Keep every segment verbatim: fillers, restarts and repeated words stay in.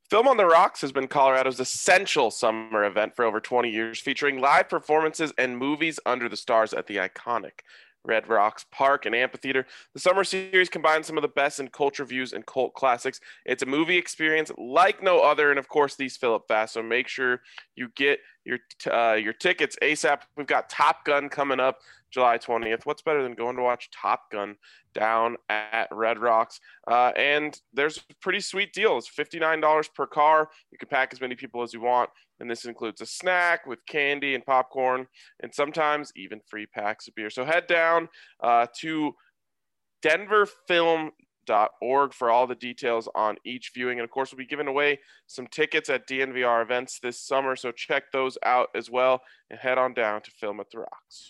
Film on the Rocks has been Colorado's essential summer event for over twenty years, featuring live performances and movies under the stars at the iconic Red Rocks Park and Amphitheater. The summer series combines some of the best in culture views and cult classics. It's a movie experience like no other, and of course, these fill up fast. So make sure you get your uh, your tickets ASAP. We've got Top Gun coming up July twentieth. What's better than going to watch Top Gun down at Red Rocks? Uh, and there's a pretty sweet deal. It's fifty-nine dollars per car. You can pack as many people as you want. And this includes a snack with candy and popcorn, and sometimes even free packs of beer. So head down uh, to denver film dot org for all the details on each viewing. And of course, we'll be giving away some tickets at D N V R events this summer. So check those out as well and head on down to Film at the Rocks.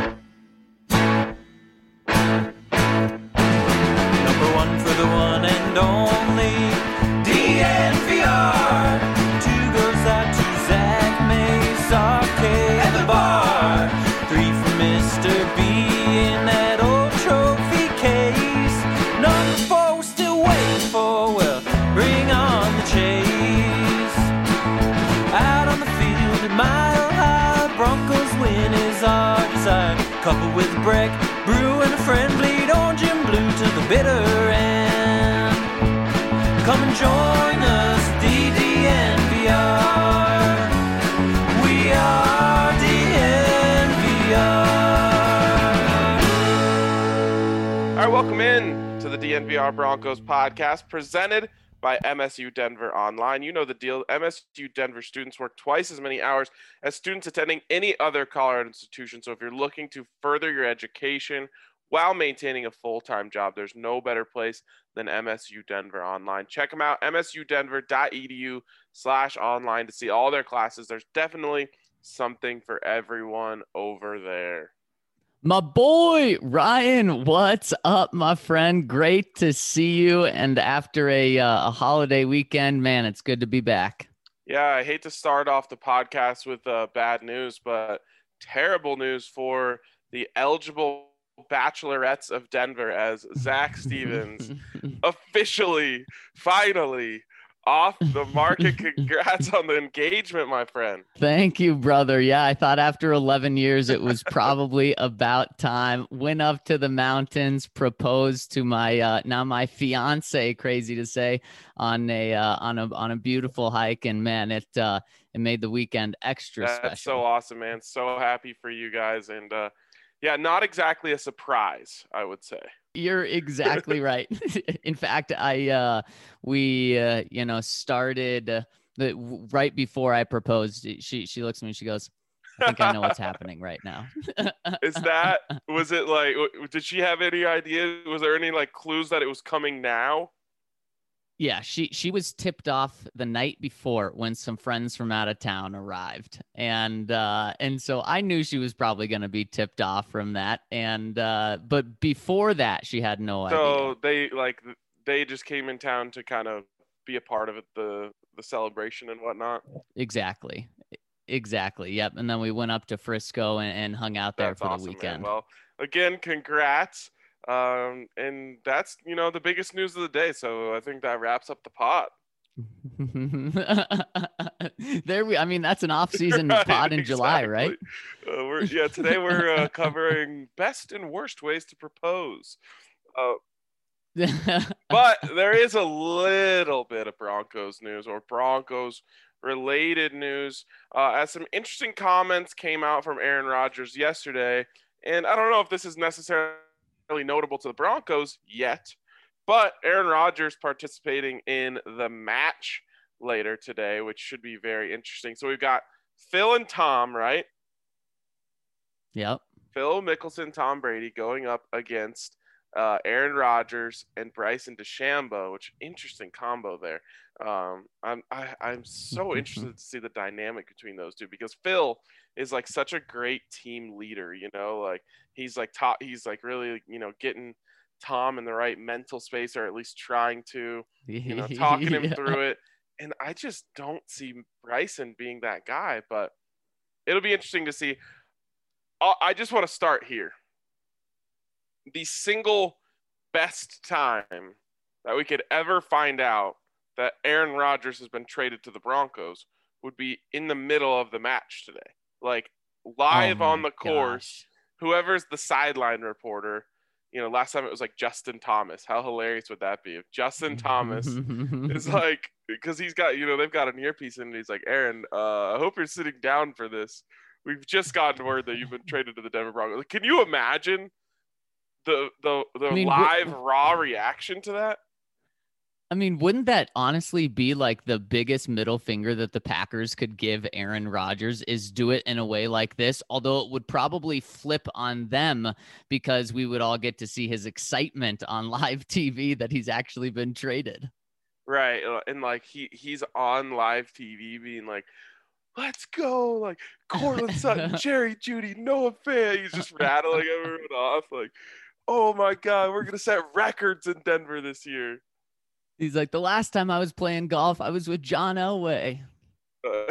Number one for the one and only D N V R. Two goes out to Zach Mace Arcade and the bar. Three for Mister B in that old trophy case. Number four we're still waiting for. Well, bring on the chase. Out on the field at Mile High, Broncos win is our desire. Couple with Breck, Brew and a friend, bleed orange and blue to the bitter end. Come and join us, D D N V R. We are D N V R. All right, welcome in to the D N V R Broncos podcast presented by M S U Denver Online. You know the deal. M S U Denver students work twice as many hours as students attending any other Colorado institution. So if you're looking to further your education while maintaining a full-time job, there's no better place than M S U Denver Online. Check them out, m s u denver dot e d u slash online to see all their classes. There's definitely something for everyone over there. My boy, Ryan, what's up, my friend? Great to see you. And after a, uh, a holiday weekend, man, it's good to be back. Yeah, I hate to start off the podcast with uh, bad news, but terrible news for the eligible bachelorettes of Denver as Zach Stevens officially, finally, off the market. Congrats on the engagement, my friend. Thank you, brother. Yeah, I thought after eleven years, it was probably about time. Went up to the mountains, proposed to my uh, now my fiance, crazy to say, on a uh, on a on a beautiful hike, and man, it uh, it made the weekend extra That's special. That's so awesome, man. So happy for you guys, and uh, yeah, not exactly a surprise, I would say. You're exactly right. In fact, I, uh, we, uh, you know, started uh, the, right before I proposed. She, she looks at me and she goes, I think I know what's happening right now. Is that, was it like, did she have any idea? Was there any like clues that it was coming now? Yeah, she she was tipped off the night before when some friends from out of town arrived, and uh, and so I knew she was probably going to be tipped off from that. And uh, but before that, she had no idea. So they like they just came in town to kind of be a part of it, the the celebration and whatnot. Exactly, exactly. Yep. And then we went up to Frisco and, and hung out there That's for awesome, the weekend. Man. Well, again, congrats. Um, and that's, you know, the biggest news of the day. So I think that wraps up the pod. There we, I mean, that's an off-season Right, pod in exactly. July, right? Uh, we're, yeah, today we're uh, covering best and worst ways to propose. Uh, but there is a little bit of Broncos news or Broncos related news, uh, as some interesting comments came out from Aaron Rodgers yesterday. And I don't know if this is necessarily notable to the Broncos yet, but Aaron Rodgers participating in the match later today, which should be very interesting. So we've got Phil and Tom, right? Yep. Phil Mickelson, Tom Brady going up against uh, Aaron Rodgers and Bryson DeChambeau, which interesting combo there. Um, I'm I, I'm so interested to see the dynamic between those two, because Phil is like such a great team leader, you know, like he's like top, he's like really, you know, getting Tom in the right mental space, or at least trying to, you know, talking him Yeah. through it. And I just don't see Bryson being that guy, but it'll be interesting to see. I just want to start here. The single best time that we could ever find out that Aaron Rodgers has been traded to the Broncos would be in the middle of the match today. Like live Oh on my the course, gosh. whoever's the sideline reporter, you know, last time it was like Justin Thomas. How hilarious would that be if Justin Thomas is like, because he's got, you know, they've got an earpiece in and he's like, Aaron, uh, I hope you're sitting down for this. We've just gotten word that you've been traded to the Denver Broncos. Like, can you imagine the the the I mean, live w- raw reaction to that? I mean, wouldn't that honestly be like the biggest middle finger that the Packers could give Aaron Rodgers is do it in a way like this? Although it would probably flip on them because we would all get to see his excitement on live T V that he's actually been traded. Right. uh, And like he he's on live T V being like, let's go. Like Cortland Sutton, Jerry Judy, Noah Fant. He's just rattling everyone off. Like, oh my God, we're going to set records in Denver this year. He's like, the last time I was playing golf, I was with John Elway. Uh,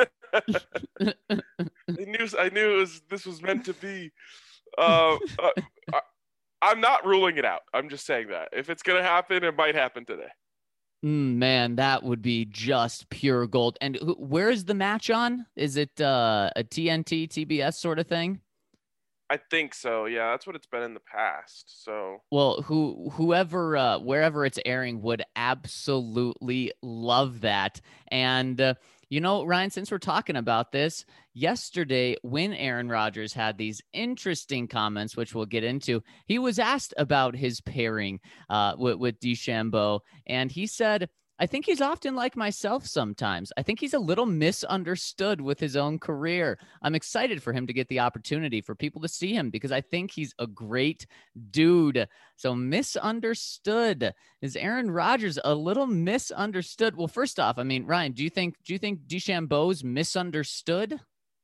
I knew I knew it was this was meant to be. Uh, uh, I, I'm not ruling it out. I'm just saying that if it's gonna happen, it might happen today. Mm, man, that would be just pure gold. And who, where is the match on? Is it uh, a T N T, T B S sort of thing? I think so. Yeah, that's what it's been in the past. So Well, who whoever uh, wherever it's airing would absolutely love that. And uh, you know, Ryan, since we're talking about this, yesterday when Aaron Rodgers had these interesting comments, which we'll get into, he was asked about his pairing uh, with, with DeChambeau, and he said, I think he's often like myself sometimes. I think he's a little misunderstood with his own career. I'm excited for him to get the opportunity for people to see him because I think he's a great dude. So misunderstood. Is Aaron Rodgers a little misunderstood? Well, first off, I mean, Ryan, do you think do you think DeChambeau's misunderstood?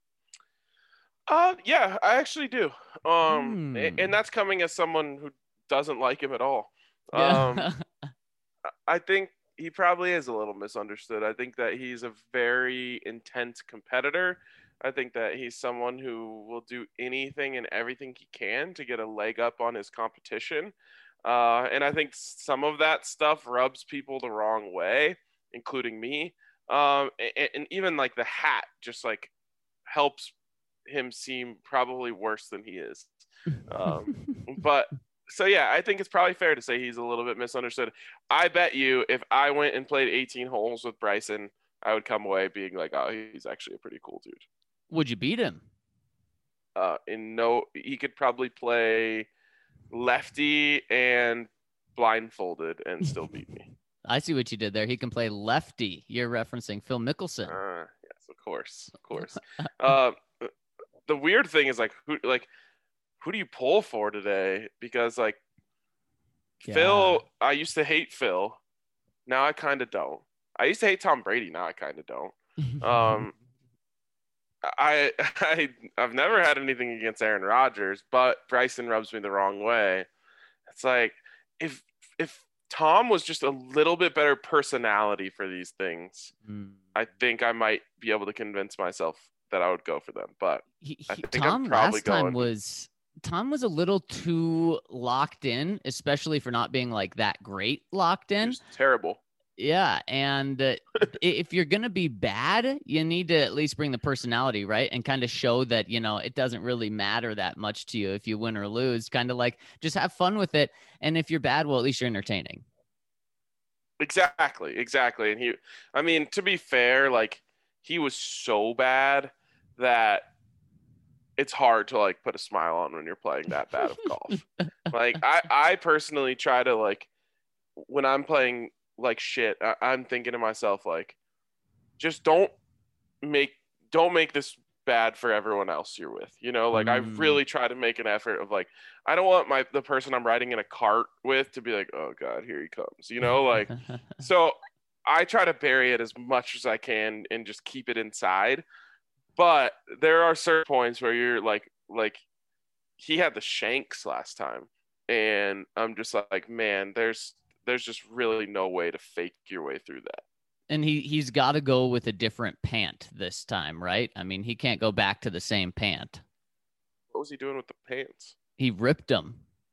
uh yeah, I actually do. Um a- and Hmm. that's coming as someone who doesn't like him at all. Um Yeah. I think he probably is a little misunderstood. I think that he's a very intense competitor. I think that he's someone who will do anything and everything he can to get a leg up on his competition. Uh, and I think some of that stuff rubs people the wrong way, including me. Um, and, and even like the hat just like helps him seem probably worse than he is. Um, but so yeah, I think it's probably fair to say he's a little bit misunderstood. I bet you if I went and played eighteen holes with Bryson, I would come away being like, oh, he's actually a pretty cool dude. Would you beat him? Uh, in no, he could probably play lefty and blindfolded and still beat me. I see what you did there. He can play lefty. You're referencing Phil Mickelson. Uh, yes, of course, of course. uh, the weird thing is like who, like who do you pull for today? Because like Yeah. Phil, I used to hate Phil. Now I kind of don't. I used to hate Tom Brady. Now I kind of don't. Um, I I I've never had anything against Aaron Rodgers, but Bryson rubs me the wrong way. It's like if if Tom was just a little bit better personality for these things, Mm. I think I might be able to convince myself that I would go for them. But He, I he, think I'm Tom probably last time going. was Tom was a little too locked in, especially for not being like that great locked in. Just terrible. Yeah, and uh, i- if you're gonna be bad, you need to at least bring the personality, right? And kind of show that you know it doesn't really matter that much to you if you win or lose. Kind of like just have fun with it. And if you're bad, well, at least you're entertaining. Exactly, exactly. And he, I mean, to be fair, like he was so bad that it's hard to like put a smile on when you're playing that bad of golf. Like I, I personally try to like when I'm playing like shit, I, I'm thinking to myself like, just don't make don't make this bad for everyone else you're with. You know, like I Mm. really try to make an effort of like, I don't want my the person I'm riding in a cart with to be like, oh God, here he comes. You know, like so I try to bury it as much as I can and just keep it inside. But there are certain points where you're like, like he had the shanks last time, and I'm just like, man, there's there's just really no way to fake your way through that. And he he's got to go with a different pant this time, right? I mean, he can't go back to the same pant. What was he doing with the pants? He ripped them.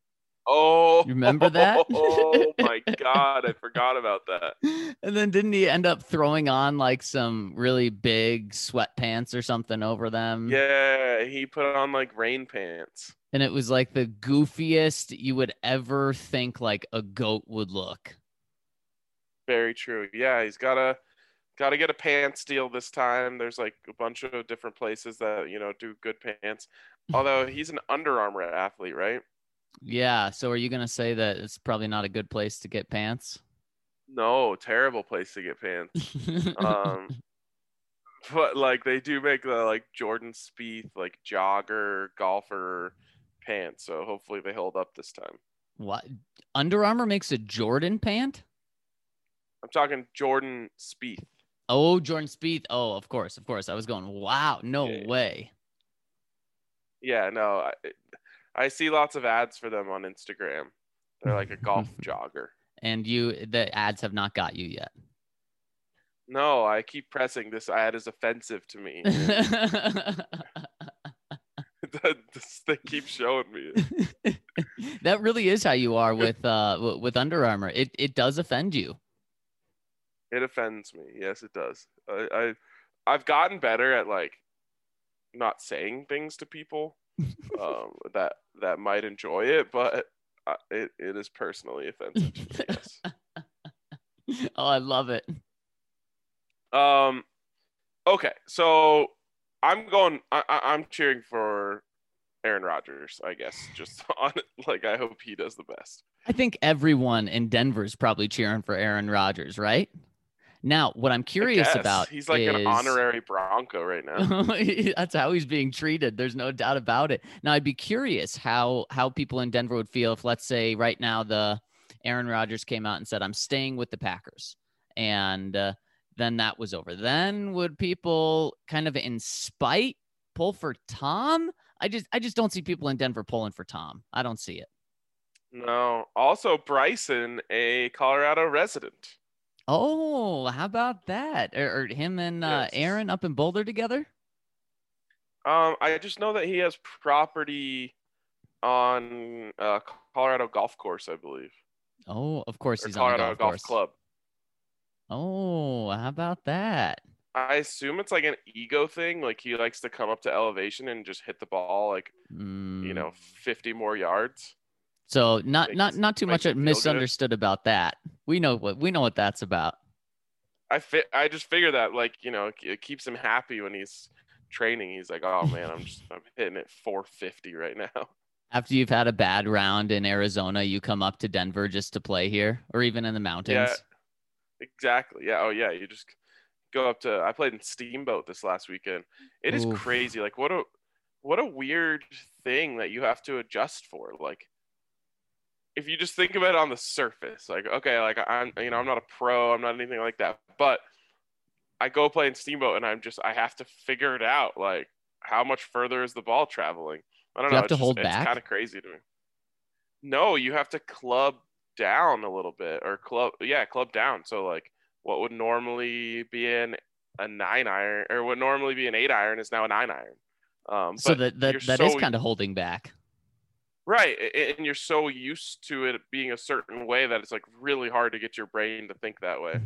Oh, You remember that? Oh my God, I forgot about that. And then didn't he end up throwing on like some really big sweatpants or something over them? Yeah, he put on like rain pants. And it was like the goofiest you would ever think like a goat would look. Very true. Yeah, he's gotta gotta get a pants deal this time. There's like a bunch of different places that, you know, do good pants. Although he's an Under Armour athlete, right? Yeah. So are you going to say that it's probably not a good place to get pants? No, terrible place to get pants. Um, but like they do make the like Jordan Spieth like jogger golfer pants, so hopefully they hold up this time. What? Under Armour makes a Jordan pant? I'm talking Jordan Spieth. Oh, Jordan Spieth. Oh, of course, of course. I was going, wow, no Yeah. way. Yeah, no, I, I see lots of ads for them on Instagram. They're like a golf jogger. And you, the ads have not got you yet. No, I keep pressing this ad is offensive to me. This thing keeps showing me. That really is how you are with uh with Under Armour. It it does offend you. It offends me. Yes, it does. I, I I've gotten better at like not saying things to people um, that that might enjoy it, but uh, it it is personally offensive to me. Yes. Oh, I love it. Um. Okay, so I'm going. I, I, I'm cheering for Aaron Rodgers. I guess just on like I hope he does the best. I think everyone in Denver is probably cheering for Aaron Rodgers, right? Now, what I'm curious about he's like is... an honorary Bronco right now. That's how he's being treated. There's no doubt about it. Now, I'd be curious how how people in Denver would feel if, let's say, right now the Aaron Rodgers came out and said, "I'm staying with the Packers," and uh, then that was over. Then would people kind of in spite pull for Tom? I just I just don't see people in Denver pulling for Tom. I don't see it. No. Also, Bryson, a Colorado resident. Oh, how about that? Or, or him and uh, Yes. Aaron up in Boulder together? Um, I just know that he has property on uh, Colorado Golf Course, I believe, Oh, of course or he's on a Colorado golf, Golf course. Club. Oh, how about that? I assume it's like an ego thing. Like he likes to come up to elevation and just hit the ball like Mm. you know fifty more yards. So not Makes- not not too makes much him feel good. misunderstood about that. We know what we know what that's about. I fit. I just figure that like you know it keeps him happy when he's training. He's like, oh man, I'm just I'm hitting it four fifty right now. After you've had a bad round in Arizona, you come up to Denver just to play here, or even in the mountains. Yeah, exactly. Yeah. Oh yeah. You just go up to. I played in Steamboat this last weekend. It is Oof. crazy. Like what a what a weird thing that you have to adjust for. Like if you just think about it on the surface, like okay, like I'm you know I'm not a pro. I'm not anything like that. But I go play in Steamboat and I'm just I have to figure it out. Like how much further is the ball traveling? I don't Do you know. have to it's hold just, back? It's kind of crazy to me. No, you have to club down a little bit or club yeah club down. So like what would normally be in a nine iron or what normally be an eight iron is now a nine iron. Um, So but that that, you're that is so- kind of holding back. right, a- and you're so used to it being a certain way that it's like really hard to get your brain to think that way.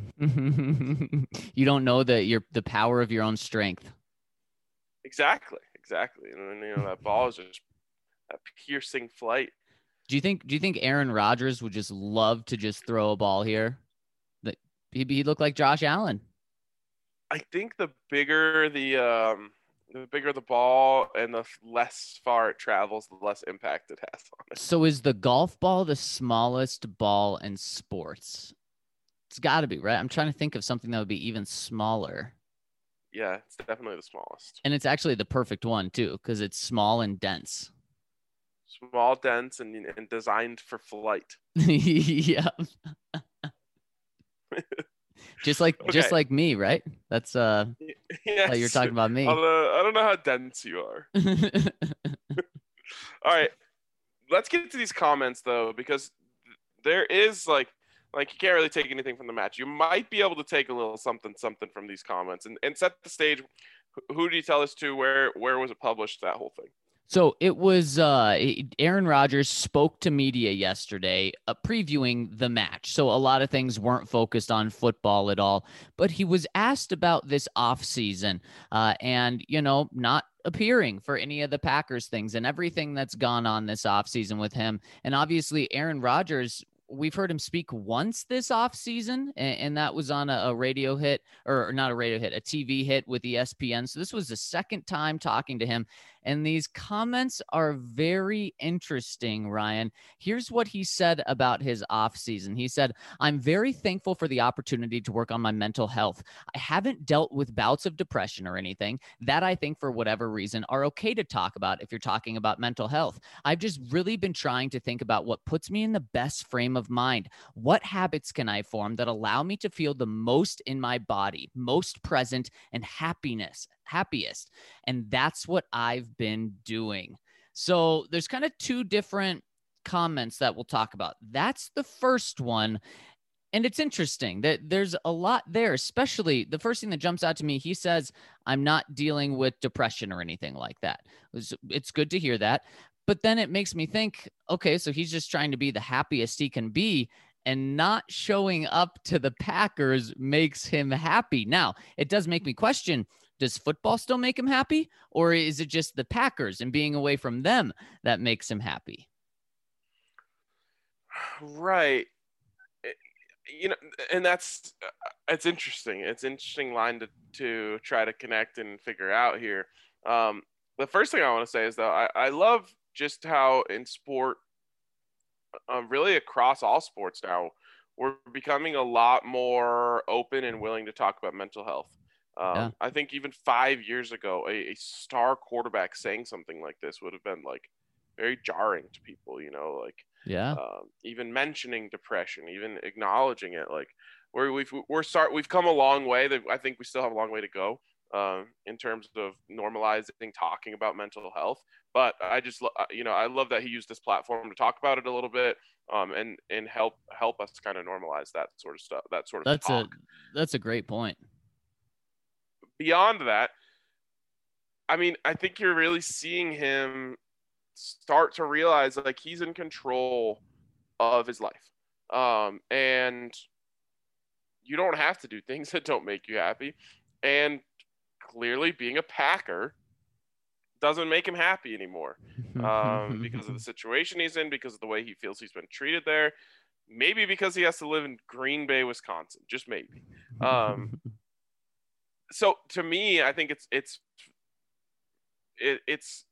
You don't know that you're the power of your own strength. Exactly, exactly, and then you know that ball is just a piercing flight. Do you think do you think Aaron Rodgers would just love to just throw a ball here? That he'd, he'd look like Josh Allen. I think the bigger the um the bigger the ball and the less far it travels, the less impact it has on it. So is the golf ball the smallest ball in sports? It's got to be, right? I'm trying to think of something that would be even smaller. Yeah, it's definitely the smallest. And it's actually the perfect one too, because it's small and dense. Small, dense, and, and designed for flight. Yeah. Just like just Okay. like me, right? That's uh Yes. oh, you're talking about me. Although, I don't know how dense you are. All right, let's get to these comments though, because there is like, like you can't really take anything from the match. You might be able to take a little something, something from these comments, and, and set the stage. Who do you tell us to? Where, where was it published? That whole thing. So it was uh, Aaron Rodgers spoke to media yesterday, uh, previewing the match. So a lot of things weren't focused on football at all, but he was asked about this offseason uh, and, you know, not appearing for any of the Packers things and everything that's gone on this offseason with him. And obviously, Aaron Rodgers, we've heard him speak once this offseason, and, and that was on a, a radio hit, or not a radio hit, a T V hit with E S P N. So this was the second time talking to him. And these comments are very interesting, Ryan. Here's what he said about his offseason. He said, I'm very thankful for the opportunity to work on my mental health. I haven't dealt with bouts of depression or anything that I think, for whatever reason, are okay to talk about if you're talking about mental health. I've just really been trying to think about what puts me in the best frame of mind. What habits can I form that allow me to feel the most in my body, most present, and happiness, happiest? And that's what I've been doing. So there's kind of two different comments that we'll talk about. That's the first one. And it's interesting that there's a lot there, especially the first thing that jumps out to me. He says, I'm not dealing with depression or anything like that. It's good to hear that. But then it makes me think, okay, so he's just trying to be the happiest he can be, and not showing up to the Packers makes him happy. Now, it does make me question, does football still make him happy? Or is it just the Packers and being away from them that makes him happy? Right. You know, and that's, it's interesting. It's an interesting line to, to try to connect and figure out here. Um, the first thing I want to say is, though, I, I love just how in sport, um, really across all sports now, we're becoming a lot more open and willing to talk about mental health. Um, Yeah. I think even five years ago, a, a star quarterback saying something like this would have been like very jarring to people, you know, like Yeah. um, even mentioning depression, even acknowledging it. Like we're, we've, we're start, we've come a long way. That I think we still have a long way to go um, in terms of normalizing talking about mental health. But I just, you know, I love that he used this platform to talk about it a little bit um, and, and help, help us kind of normalize that sort of stuff, that sort of That's a talk. that's a great point. Beyond that, I mean, I think you're really seeing him start to realize like he's in control of his life. Um, and you don't have to do things that don't make you happy. And clearly being a Packer doesn't make him happy anymore um, because of the situation he's in, because of the way he feels he's been treated there. Maybe because he has to live in Green Bay, Wisconsin, just maybe. Um, so to me, I think it's, it's, it, it's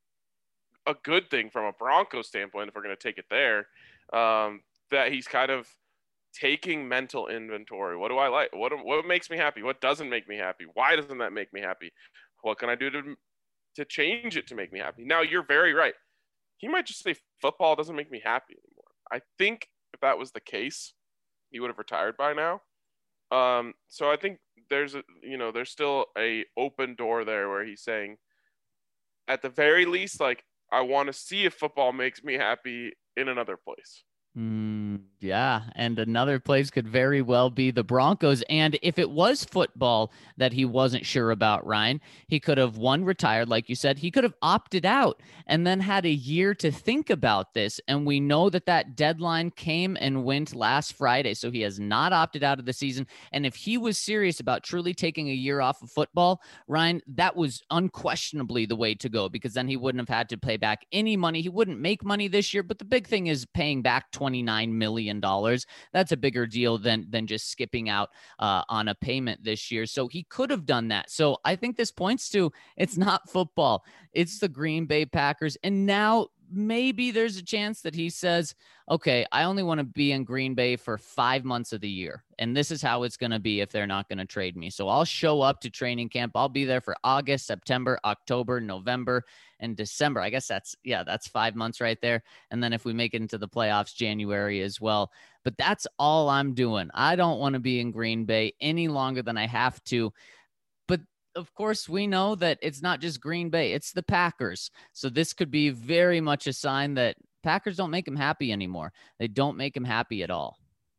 a good thing from a Broncos standpoint, if we're going to take it there, um, that he's kind of taking mental inventory. What do I like? What what makes me happy? What doesn't make me happy? Why doesn't that make me happy? What can I do to to change it to make me happy? Now, you're very right. He might just say football doesn't make me happy anymore. I think if that was the case, he would have retired by now. Um, so I think there's a you know there's still a open door there where he's saying, at the very least, like, I want to see if football makes me happy in another place. Mm, yeah, and another place could very well be the Broncos. And if it was football that he wasn't sure about, Ryan, he could have, one, retired, like you said. He could have opted out and then had a year to think about this. And we know that that deadline came and went last Friday. So he has not opted out of the season. And if he was serious about truly taking a year off of football, Ryan, that was unquestionably the way to go, because then he wouldn't have had to pay back any money. He wouldn't make money this year. But the big thing is paying back twenty-nine million dollars. That's a bigger deal than than just skipping out uh, on a payment this year. So he could have done that. So I think this points to, it's not football. It's the Green Bay Packers. And now maybe there's a chance that he says, okay, I only want to be in Green Bay for five months of the year. And this is how it's going to be if they're not going to trade me. So I'll show up to training camp. I'll be there for August, September, October, November, and December. I guess that's, yeah, that's five months right there. And then if we make it into the playoffs, January as well. But that's all I'm doing. I don't want to be in Green Bay any longer than I have to. But of course, we know that it's not just Green Bay, it's the Packers. So this could be very much a sign that Packers don't make him happy anymore. They don't make him happy at all.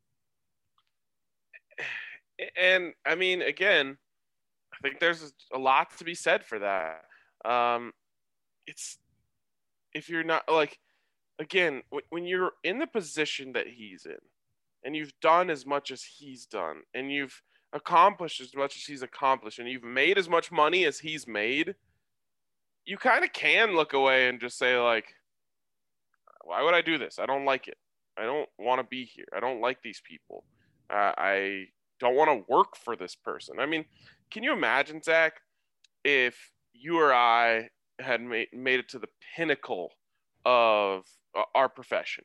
And I mean, again, I think there's a lot to be said for that. Um, it's if you're not like, again, when you're in the position that he's in and you've done as much as he's done and you've accomplished as much as he's accomplished and you've made as much money as he's made, you kind of can look away and just say, like, why would I do this? I don't like it. I don't want to be here. I don't like these people. Uh, I don't want to work for this person. I mean, can you imagine, Zach, if you or I had made, made it to the pinnacle of uh, our profession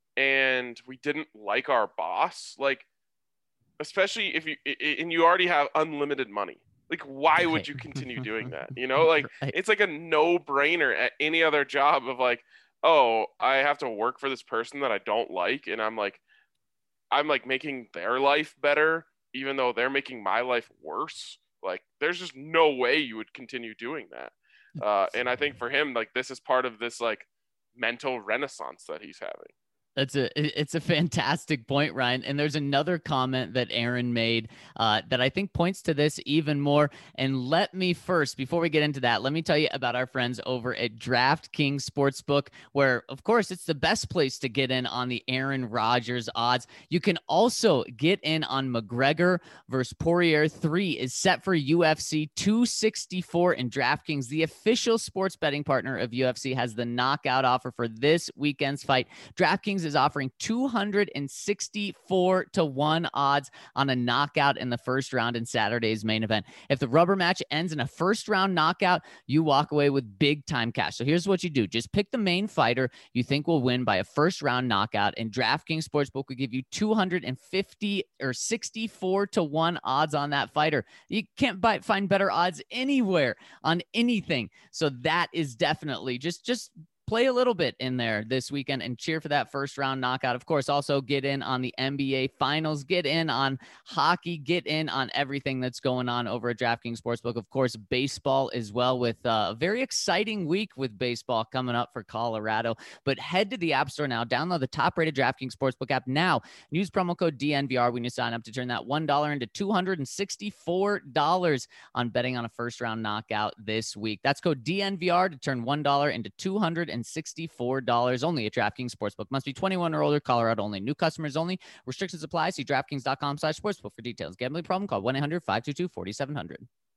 and we didn't like our boss? Like, especially if you, and you already have unlimited money. Like, why would you continue doing that? You know, like, Right. it's like a no-brainer at any other job of like, oh, I have to work for this person that I don't like, and I'm like, I'm like making their life better, even though they're making my life worse. Like, there's just no way you would continue doing that. Uh, and I think for him, like, this is part of this like mental renaissance that he's having. That's a it's a fantastic point, Ryan. And there's another comment that Aaron made uh, that I think points to this even more. And let me first, before we get into that, let me tell you about our friends over at DraftKings Sportsbook, where, of course, it's the best place to get in on the Aaron Rodgers odds. You can also get in on McGregor versus Poirier. Three is set for U F C two sixty-four, and DraftKings, the official sports betting partner of U F C, has the knockout offer for this weekend's fight. DraftKings is offering two hundred sixty-four to one odds on a knockout in the first round in Saturday's main event. If the rubber match ends in a first round knockout, you walk away with big time cash. So here's what you do. Just pick the main fighter you think will win by a first round knockout, and DraftKings Sportsbook will give you two hundred fifty or sixty-four to one odds on that fighter. You can't buy, find better odds anywhere on anything. So that is definitely just, just play a little bit in there this weekend and cheer for that first round knockout. Of course, also get in on the N B A finals, get in on hockey, get in on everything that's going on over at DraftKings Sportsbook. Of course, baseball as well, with a very exciting week with baseball coming up for Colorado. But head to the App Store now, download the top rated DraftKings Sportsbook app now. Use promo code D N V R when you sign up to turn that one dollar into two hundred sixty-four dollars on betting on a first round knockout this week. That's code D N V R to turn one dollar into two hundred sixty-four dollars only at DraftKings Sportsbook. Must be twenty-one or older, Colorado only. New customers only. Restrictions apply. See DraftKings.com slash sportsbook for details. Gambling problem? Call one eight hundred five two two four seven zero zero.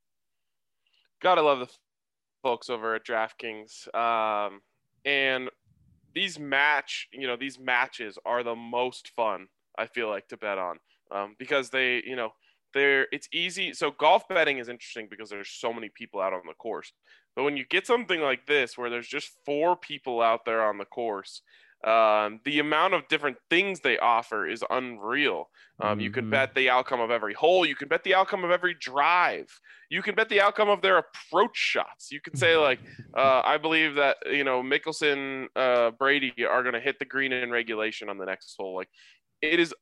Gotta love the folks over at DraftKings. Um, and these match, you know, these matches are the most fun, I feel like, to bet on, um, because they, you know, they're, it's easy. So golf betting is interesting because there's so many people out on the course. But when you get something like this, where there's just four people out there on the course, um, the amount of different things they offer is unreal. Um, mm-hmm. You can bet the outcome of every hole. You can bet the outcome of every drive. You can bet the outcome of their approach shots. You can say, like, uh, I believe that, you know, Mickelson, uh, Brady are going to hit the green in regulation on the next hole. Like, it is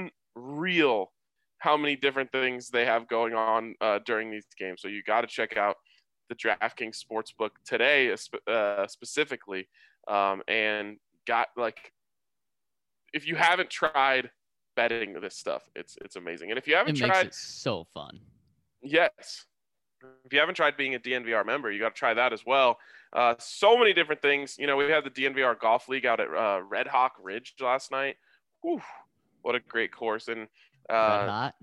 unreal how many different things they have going on uh, during these games. So you got to check out the DraftKings Sportsbook today, uh, specifically, um, and got like, if you haven't tried betting this stuff, it's it's amazing. And if you haven't it tried, makes it so fun. Yes, if you haven't tried being a D N V R member, you got to try that as well. Uh, so many different things. You know, we had the D N V R Golf League out at uh, Red Hawk Ridge last night. Whew, what a great course! And uh, Red hot.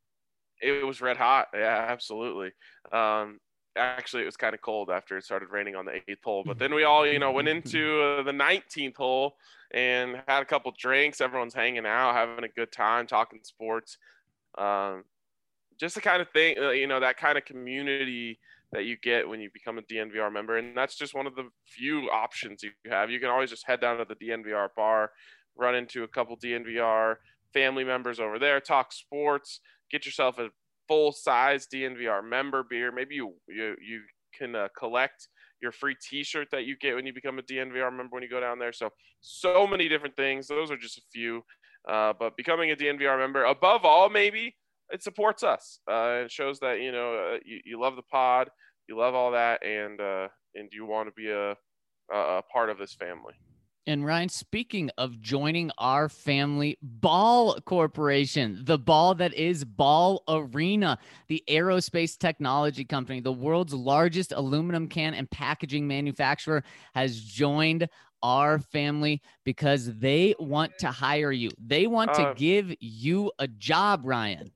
It was red hot. Yeah, absolutely. Um, actually, it was kind of cold after it started raining on the eighth hole. But then we all, you know, went into uh, the nineteenth hole and had a couple drinks. Everyone's hanging out, having a good time, talking sports. Um, just the kind of thing, you know, that kind of community that you get when you become a D N V R member. And that's just one of the few options you have. You can always just head down to the D N V R bar, run into a couple D N V R family members over there, talk sports, get yourself a full-size D N V R member beer. Maybe you you, you can uh, collect your free t-shirt that you get when you become a D N V R member when you go down there. So, so many different things. Those are just a few. Uh, but becoming a D N V R member, above all, maybe, it supports us. Uh, it shows that, you know, uh, you, you love the pod, you love all that, and uh, and you want to be a, a part of this family. And Ryan, speaking of joining our family, Ball Corporation, the ball that is Ball Arena, the aerospace technology company, the world's largest aluminum can and packaging manufacturer, has joined our family because they want to hire you. They want to Uh, give you a job, Ryan.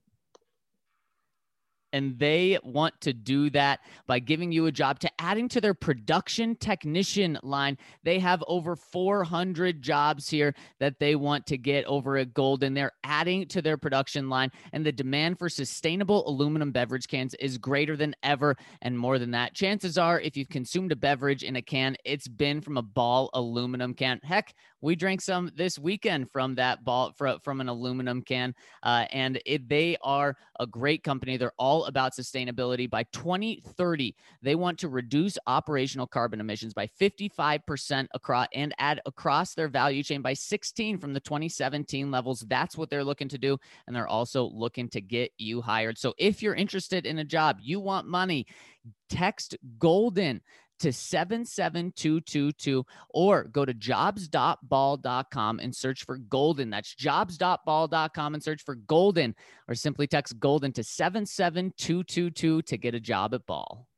And they want to do that by giving you a job, to adding to their production technician line. They have over four hundred jobs here that they want to get over at Golden. They're adding to their production line, and the demand for sustainable aluminum beverage cans is greater than ever. And more than that, chances are, if you've consumed a beverage in a can, it's been from a Ball aluminum can. Heck, we drank some this weekend from that Ball, from an aluminum can, uh, and it, they are a great company. They're all about sustainability. By twenty thirty, they want to reduce operational carbon emissions by fifty-five percent across and add across their value chain by sixteen from the twenty seventeen levels. That's what they're looking to do. And they're also looking to get you hired. So if you're interested in a job, you want money, text Golden to seven seven two two two or go to jobs dot ball dot com and search for Golden. That's jobs dot ball dot com and search for Golden, or simply text Golden to seven seven two two two to get a job at Ball.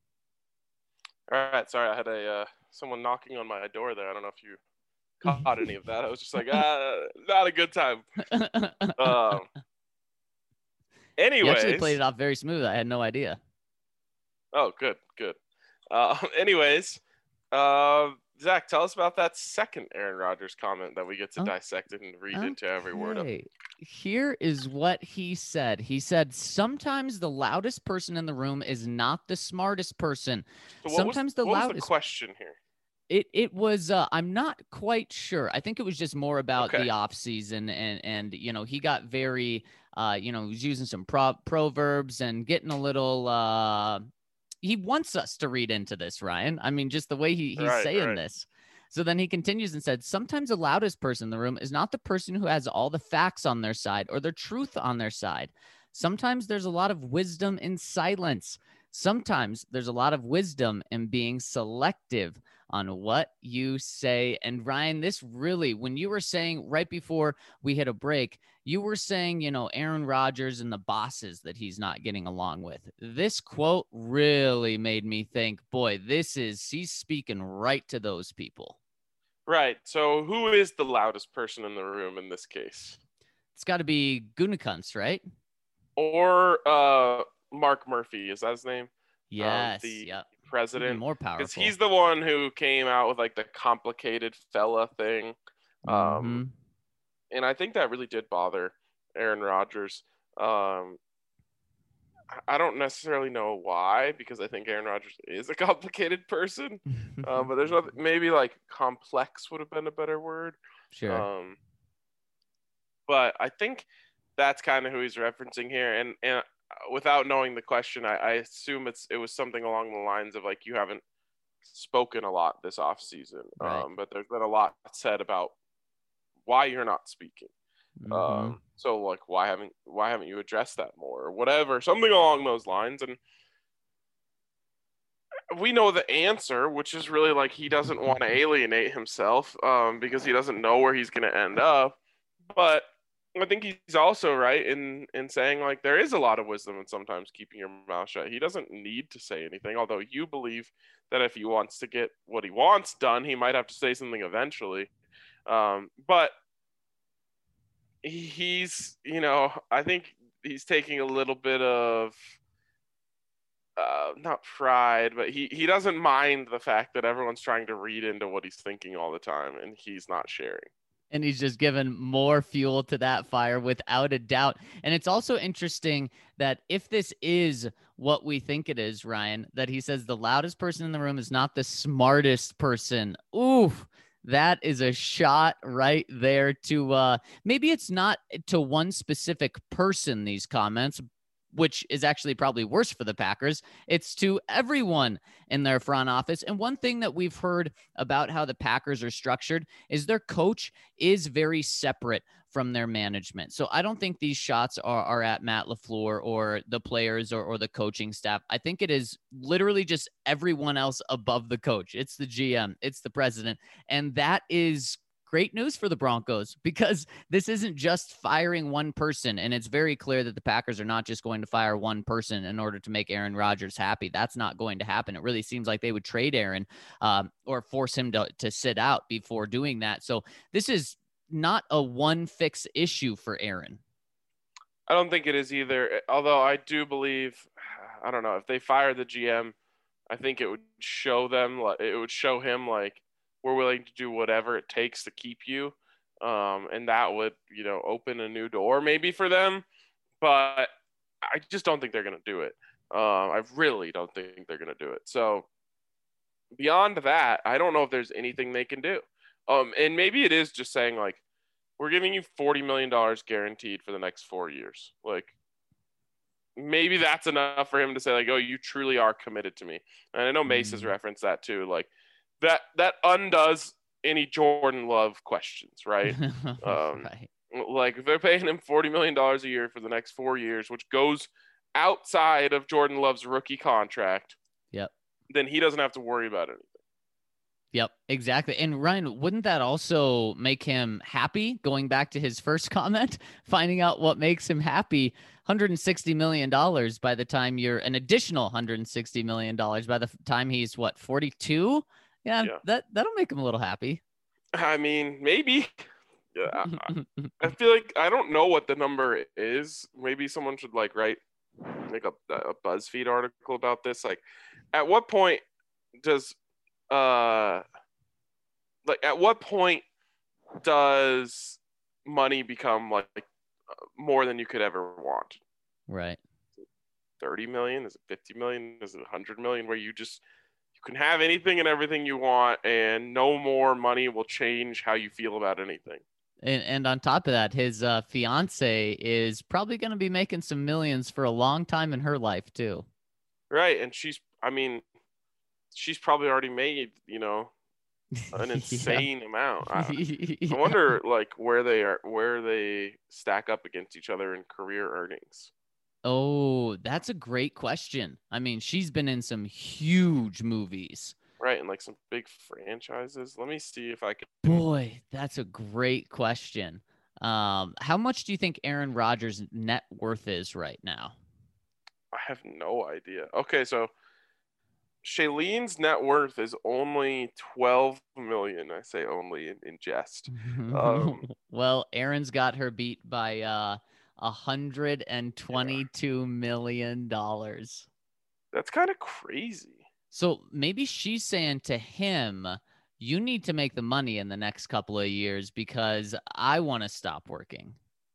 All right. Sorry, I had a uh, someone knocking on my door there. I don't know if you caught any of that. I was just like, ah, not a good time. Um, anyways. You actually played it off very smooth. I had no idea. Oh, good, good. Uh, anyways, uh, Zach, tell us about that second Aaron Rodgers comment that we get to oh, dissect and read okay. into every word of. Here is what he said. He said, sometimes the loudest person in the room is not the smartest person. So sometimes was, the what loudest was the question here? It it was uh, I'm not quite sure. I think it was just more about okay. the off season, and and you know he got very uh you know he was using some pro- proverbs and getting a little uh he wants us to read into this, Ryan. I mean, just the way he, he's right, saying right. this. So then he continues and said, sometimes the loudest person in the room is not the person who has all the facts on their side or the truth on their side. Sometimes there's a lot of wisdom in silence. Sometimes there's a lot of wisdom in being selective on what you say. And Ryan, this really, when you were saying right before we hit a break, you were saying, you know, Aaron Rodgers and the bosses that he's not getting along with. This quote really made me think, boy, this is, he's speaking right to those people. Right. So who is the loudest person in the room in this case? It's got to be Gutekunst, right? Or uh, Mark Murphy. Is that his name? Yes. Um, the yep. president. Even more powerful. Because he's the one who came out with like the complicated fella thing. Um, mm-hmm. And I think that really did bother Aaron Rodgers. Um, I don't necessarily know why, because I think Aaron Rodgers is a complicated person. um, but there's nothing, maybe like complex would have been a better word. Sure. Um, but I think that's kind of who he's referencing here. And, and without knowing the question, I, I assume it's it was something along the lines of like, you haven't spoken a lot this off season. Right. Um, but there's been a lot said about why you're not speaking. Mm-hmm. Um, so like, why haven't why haven't you addressed that more or whatever, something along those lines. And we know the answer, which is really like he doesn't want to alienate himself um, because he doesn't know where he's going to end up. But I think he's also right in in saying like there is a lot of wisdom in sometimes keeping your mouth shut. He doesn't need to say anything, although you believe that if he wants to get what he wants done, he might have to say something eventually. Um, but he's, you know, I think he's taking a little bit of, uh, not pride, but he, he doesn't mind the fact that everyone's trying to read into what he's thinking all the time, and he's not sharing. And he's just given more fuel to that fire without a doubt. And it's also interesting that if this is what we think it is, Ryan, that he says the loudest person in the room is not the smartest person. Oof. That is a shot right there to uh, maybe it's not to one specific person, these comments, which is actually probably worse for the Packers. It's to everyone in their front office. And one thing that we've heard about how the Packers are structured is their coach is very separate from their management. So I don't think these shots are, are at Matt LaFleur or the players or, or the coaching staff. I think it is literally just everyone else above the coach. It's the G M, it's the president. And that is great news for the Broncos because this isn't just firing one person. And it's very clear that the Packers are not just going to fire one person in order to make Aaron Rodgers happy. That's not going to happen. It really seems like they would trade Aaron um, or force him to, to sit out before doing that. So this is not a one fix issue for Aaron. I don't think it is either. Although I do believe, I don't know, if they fire the G M, I think it would show them, it would show him like, we're willing to do whatever it takes to keep you. Um, and that would, you know, open a new door maybe for them. But I just don't think they're going to do it. Um, I really don't think they're going to do it. So beyond that, I don't know if there's anything they can do. Um, and maybe it is just saying like, we're giving you forty million dollars guaranteed for the next four years. Like, maybe that's enough for him to say like, oh, you truly are committed to me. And I know Mace has referenced that too. Like, that that undoes any Jordan Love questions, right? um, right. Like, if they're paying him forty million dollars a year for the next four years, which goes outside of Jordan Love's rookie contract, yep, then he doesn't have to worry about anything. Yep, exactly. And Ryan, wouldn't that also make him happy? Going back to his first comment, finding out what makes him happy, one hundred sixty million dollars by the time you're an additional one hundred sixty million dollars by the time he's what, forty-two? Yeah, yeah, that, that'll make him a little happy. I mean, maybe. Yeah, I, I feel like I don't know what the number is. Maybe someone should like write like a, a BuzzFeed article about this. Like, at what point does uh like at what point does money become like more than you could ever want? Right. thirty million? Is it fifty million? Is it one hundred million? Where you just you can have anything and everything you want, and no more money will change how you feel about anything. And and on top of that, his uh, fiance is probably going to be making some millions for a long time in her life too. Right, and she's, I mean, she's probably already made, you know, an insane yeah. amount. I, yeah. I wonder, like, where they are, where they stack up against each other in career earnings. Oh, that's a great question. I mean, she's been in some huge movies. Right, and like some big franchises. Let me see if I can. Boy, that's a great question. Um, how much do you think Aaron Rodgers' net worth is right now? I have no idea. Okay, so Shailene's net worth is only twelve million. I say only in, in jest. Um, well, Aaron's got her beat by uh, one hundred twenty-two yeah. million dollars. That's kind of crazy. So maybe she's saying to him, you need to make the money in the next couple of years because I want to stop working.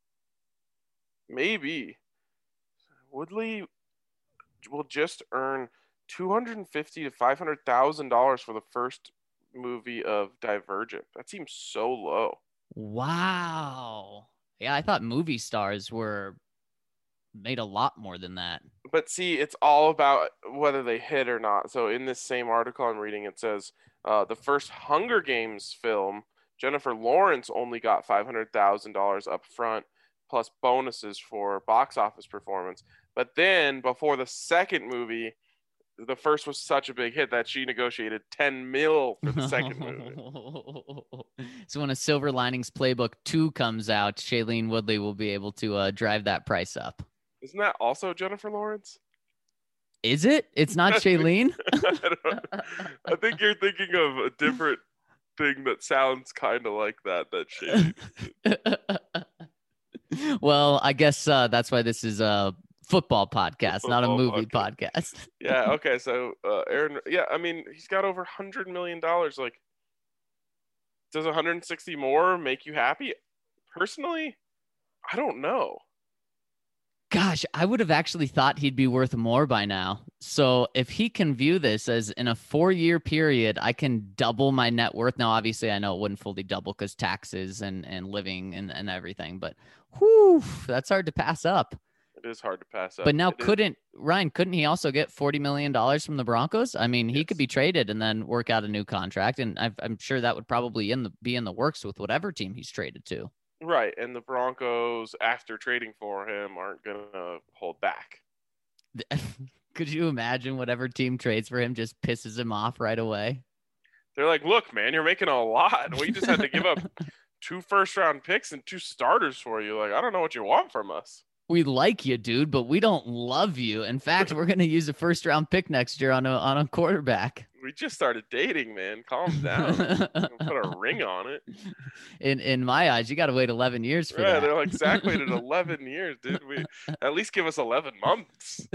Maybe. Woodley will just earn two hundred fifty thousand to five hundred thousand dollars for the first movie of Divergent. That seems so low. Wow. Yeah, I thought movie stars were made a lot more than that. But see, it's all about whether they hit or not. So in this same article I'm reading, it says uh, the first Hunger Games film, Jennifer Lawrence only got five hundred thousand dollars up front, plus bonuses for box office performance. But then before the second movie, the first was such a big hit that she negotiated ten mil for the second movie. So when a Silver Linings Playbook two comes out, Shailene Woodley will be able to uh, drive that price up. Isn't that also Jennifer Lawrence? Is it? It's not Shailene? I, I think you're thinking of a different thing that sounds kind of like that, that Shailene. Well, I guess uh, that's why this is a football podcast, football not a movie podcast. podcast. Yeah, okay. So uh, Aaron, yeah, I mean, he's got over one hundred million dollars. Like, does one hundred sixty more make you happy? Personally, I don't know. Gosh, I would have actually thought he'd be worth more by now. So if he can view this as in a four-year period, I can double my net worth. Now, obviously, I know it wouldn't fully double because taxes and, and living and, and everything. But whew, that's hard to pass up. It is hard to pass up. But now it couldn't, is. Ryan, couldn't he also get forty million dollars from the Broncos? I mean, he yes. could be traded and then work out a new contract. And I've, I'm sure that would probably in the, be in the works with whatever team he's traded to. Right, and the Broncos, after trading for him, aren't going to hold back. Could you imagine whatever team trades for him just pisses him off right away? They're like, look, man, you're making a lot. We just had to give up two first round picks and two starters for you. Like, I don't know what you want from us. We like you, dude, but we don't love you. In fact, we're going to use a first round pick next year on a on a quarterback. We just started dating, man. Calm down. Put a ring on it. In in my eyes, you got to wait eleven years for yeah, that. They're like, Zach waited eleven years, dude. We at least give us eleven months.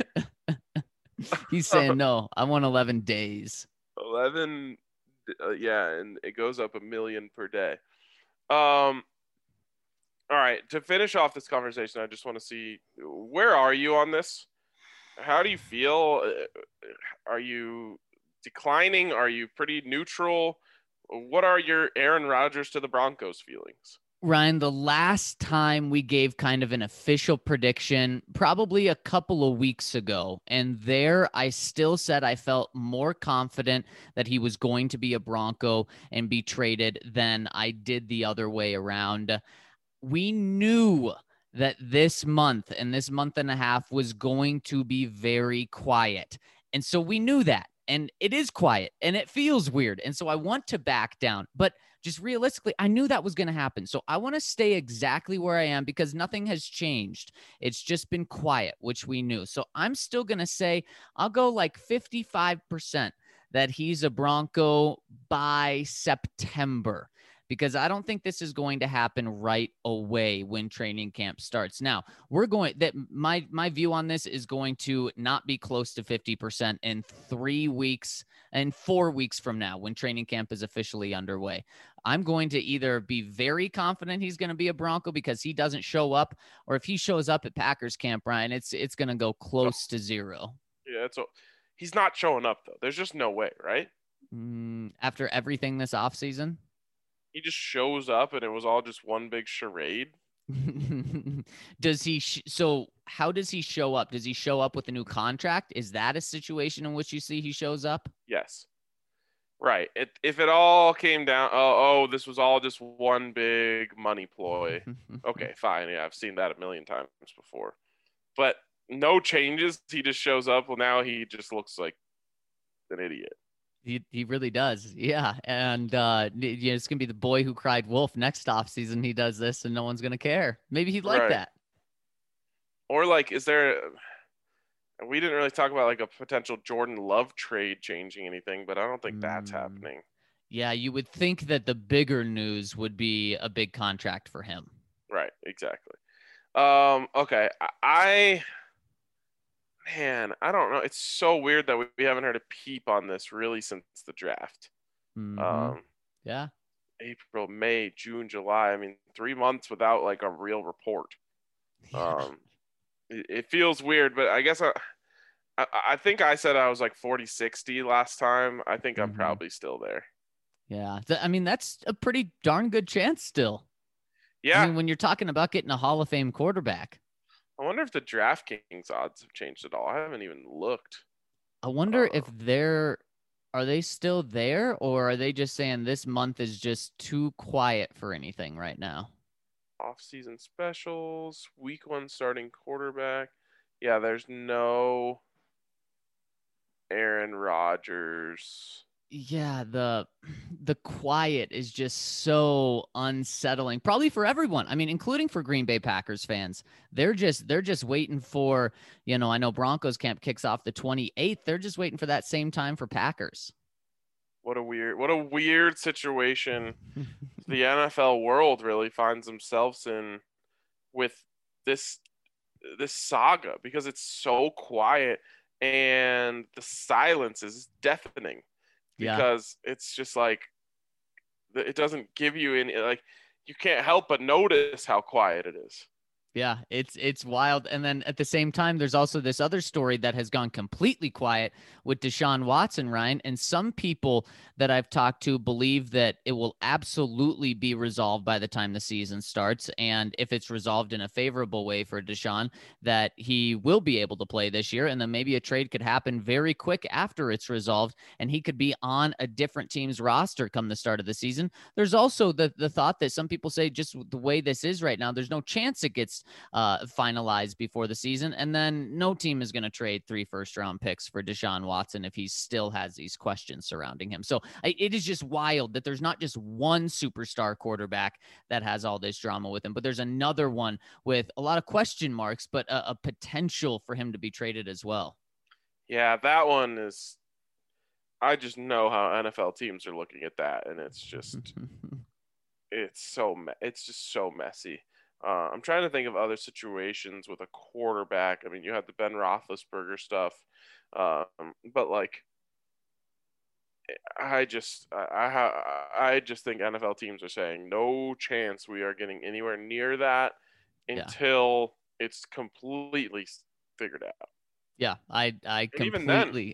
He's saying no. I want eleven days. eleven, uh, yeah, and it goes up a million per day. Um. All right, to finish off this conversation, I just want to see, where are you on this? How do you feel? Are you declining? Are you pretty neutral? What are your Aaron Rodgers to the Broncos feelings? Ryan, the last time we gave kind of an official prediction, probably a couple of weeks ago, and there I still said I felt more confident that he was going to be a Bronco and be traded than I did the other way around. We knew that this month and this month and a half was going to be very quiet. And so we knew that. And it is quiet and it feels weird. And so I want to back down. But just realistically, I knew that was going to happen. So I want to stay exactly where I am because nothing has changed. It's just been quiet, which we knew. So I'm still going to say I'll go like fifty-five percent that he's a Bronco by September, because I don't think this is going to happen right away when training camp starts. Now, we're going that my my view on this is going to not be close to fifty percent in three weeks and four weeks from now when training camp is officially underway. I'm going to either be very confident he's going to be a Bronco because he doesn't show up, or if he shows up at Packers camp, Ryan, it's it's going to go close to zero. Yeah, it's a, he's not showing up though. There's just no way, right? Mm, after everything this offseason? He just shows up and it was all just one big charade. Does he sh- so how does he show up? Does he show up with a new contract? Is that a situation in which you see he shows up? Yes. Right. It, if it all came down, oh, oh, this was all just one big money ploy. Okay, fine. Yeah, I've seen that a million times before. But no changes. He just shows up. Well, now he just looks like an idiot. He he really does. Yeah. And uh, you know, it's going to be the boy who cried wolf next offseason. He does this and no one's going to care. Maybe he'd like right. that. Or like, is there, we didn't really talk about like a potential Jordan Love trade changing anything, but I don't think that's mm. happening. Yeah. You would think that the bigger news would be a big contract for him. Right. Exactly. Um, okay. I, Man, I don't know. It's so weird that we, we haven't heard a peep on this really since the draft. Mm-hmm. Um, yeah. April, May, June, July. I mean, three months without like a real report. Yeah. Um, it, it feels weird, but I guess I, I, I think I said I was like forty sixty last time. I think I'm mm-hmm. probably still there. Yeah. Th- I mean, that's a pretty darn good chance still. Yeah. I mean, when you're talking about getting a Hall of Fame quarterback. I wonder if the DraftKings odds have changed at all. I haven't even looked. I wonder uh, if they're, are they still there, or are they just saying this month is just too quiet for anything right now? Off-season specials, week one starting quarterback. Yeah, there's no Aaron Rodgers. Yeah, the the quiet is just so unsettling, probably for everyone. I mean, including for Green Bay Packers fans. They're just they're just waiting for, you know, I know Broncos camp kicks off the twenty-eighth. They're just waiting for that same time for Packers. What a weird what a weird situation the N F L world really finds themselves in with this this saga, because it's so quiet and the silence is deafening. Because yeah. it's just like, it doesn't give you any, like, you can't help but notice how quiet it is. Yeah, it's it's wild. And then at the same time, there's also this other story that has gone completely quiet with Deshaun Watson, Ryan. And some people that I've talked to believe that it will absolutely be resolved by the time the season starts. And if it's resolved in a favorable way for Deshaun, that he will be able to play this year. And then maybe a trade could happen very quick after it's resolved, and he could be on a different team's roster come the start of the season. There's also the, the thought that some people say, just the way this is right now, there's no chance it gets uh, finalized before the season. And then no team is going to trade three first round picks for Deshaun Watson if he still has these questions surrounding him. So I, it is just wild that there's not just one superstar quarterback that has all this drama with him, but there's another one with a lot of question marks, but a, a potential for him to be traded as well. Yeah, that one is, I just know how N F L teams are looking at that, and it's just, it's so, it's just so messy. Uh, I'm trying to think of other situations with a quarterback. I mean, you had the Ben Roethlisberger stuff, um, but like, I just, I, I, I just think N F L teams are saying no chance we are getting anywhere near that until yeah. it's completely figured out. Yeah, I, I and completely. Even then,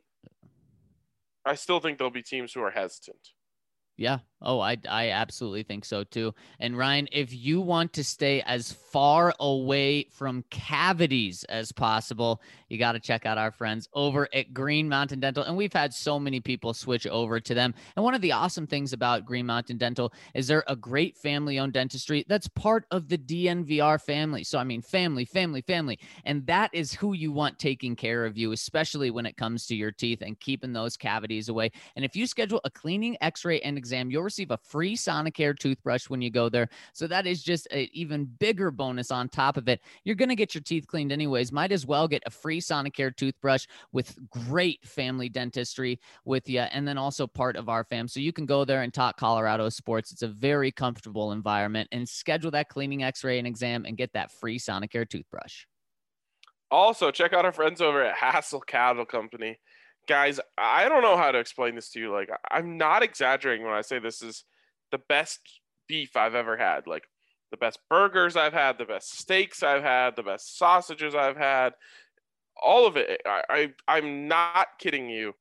I still think there'll be teams who are hesitant. Yeah. Oh, I, I absolutely think so too. And Ryan, if you want to stay as far away from cavities as possible, you got to check out our friends over at Green Mountain Dental. And we've had so many people switch over to them. And one of the awesome things about Green Mountain Dental is they're a great family-owned dentistry that's part of the D N V R family. So, I mean, family, family, family. And that is who you want taking care of you, especially when it comes to your teeth and keeping those cavities away. And if you schedule a cleaning, x-ray, and exam, you'll receive a free Sonicare toothbrush when you go there. So that is just an even bigger bonus on top of it. You're going to get your teeth cleaned anyways. Might as well get a free Sonicare toothbrush with great family dentistry with you, and then also part of our fam. So you can go there and talk Colorado sports. It's a very comfortable environment, and schedule that cleaning, x-ray, and exam and get that free Sonicare toothbrush. Also, check out our friends over at Hassel Cattle Company. Guys, I don't know how to explain this to you. Like, I'm not exaggerating when I say this is the best beef I've ever had. Like, the best burgers I've had, the best steaks I've had, the best sausages I've had. All of it, I, I, I'm not kidding you,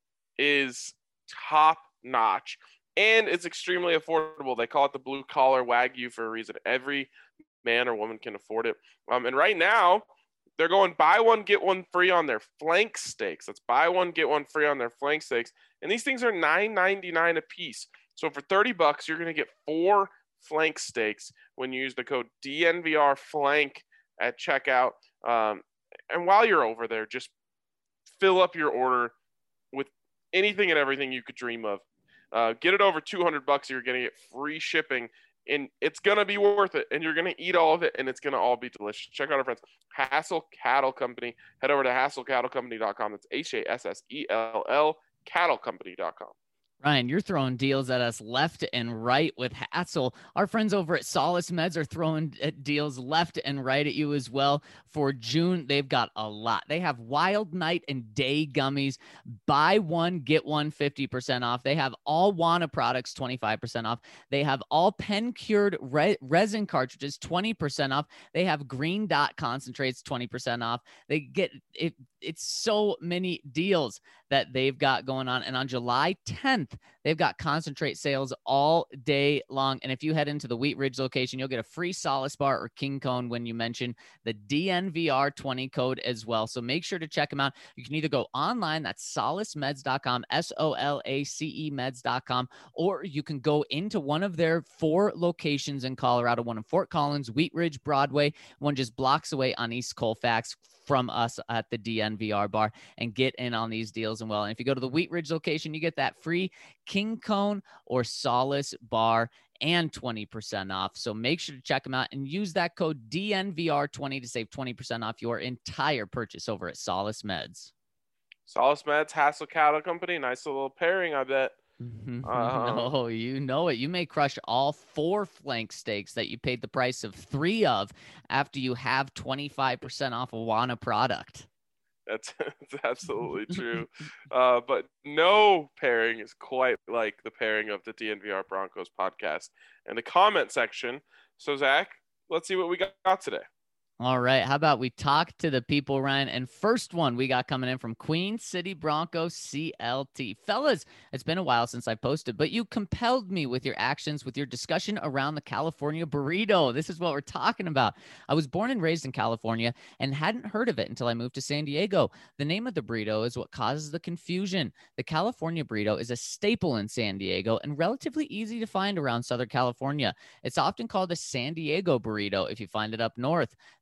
is top notch. And it's extremely affordable. They call it the blue collar Wagyu for a reason. Every man or woman can afford it. Um, and right now, they're going buy one, get one free on their flank steaks. That's buy one, get one free on their flank steaks. And these things are nine ninety-nine a piece. So for thirty bucks, you're going to get four flank steaks when you use the code D N V R flank at checkout. Um, and while you're over there, just fill up your order with anything and everything you could dream of. Uh, get it over two hundred bucks. You're going to get free shipping. And it's going to be worth it, and you're going to eat all of it, and it's going to all be delicious. Check out our friends, Hassel Cattle Company. Head over to hassel cattle company dot com. That's H A S S E L L, cattle company dot com. Ryan, you're throwing deals at us left and right with Hassel. Our friends over at Solace Meds are throwing deals left and right at you as well. For June, they've got a lot. They have Wild Night and Day Gummies. Buy one, get one fifty percent off. They have all Wana products twenty-five percent off. They have all pen cured re- resin cartridges twenty percent off. They have Green Dot concentrates twenty percent off. They get it. It's so many deals that they've got going on. And on July tenth, they've got concentrate sales all day long. And if you head into the Wheat Ridge location, you'll get a free Solace bar or King Cone when you mention the D N V R twenty code as well. So make sure to check them out. You can either go online, that's solace meds dot com, S O L A C E meds dot com, or you can go into one of their four locations in Colorado, one in Fort Collins, Wheat Ridge, Broadway, one just blocks away on East Colfax from us at the D N V R bar, and get in on these deals. And well, and if you go to the Wheat Ridge location, you get that free King Cone or Solace bar and twenty percent off. So make sure to check them out and use that code D N V R twenty to save twenty percent off your entire purchase over at Solace Meds. Solace Meds, Hassel Cattle Company. Nice little pairing, I bet. Um, no, you know it. You may crush all four flank steaks that you paid the price of three of after you have twenty-five percent off a Wana product. That's, that's absolutely true. Uh, but no pairing is quite like the pairing of the D N V R Broncos podcast and the comment section. So, Zach, let's see what we got today. All right. How about we talk to the people, Ryan? And first one we got coming in from Queen City Broncos C L T. Fellas, it's been a while since I posted, but you compelled me with your actions, with your discussion around the California burrito. This is what we're talking about. I was born and raised in California and hadn't heard of it until I moved to San Diego. The name of the burrito is what causes the confusion. The California burrito is a staple in San Diego and relatively easy to find around Southern California. It's often called a San Diego burrito if you find it up north. The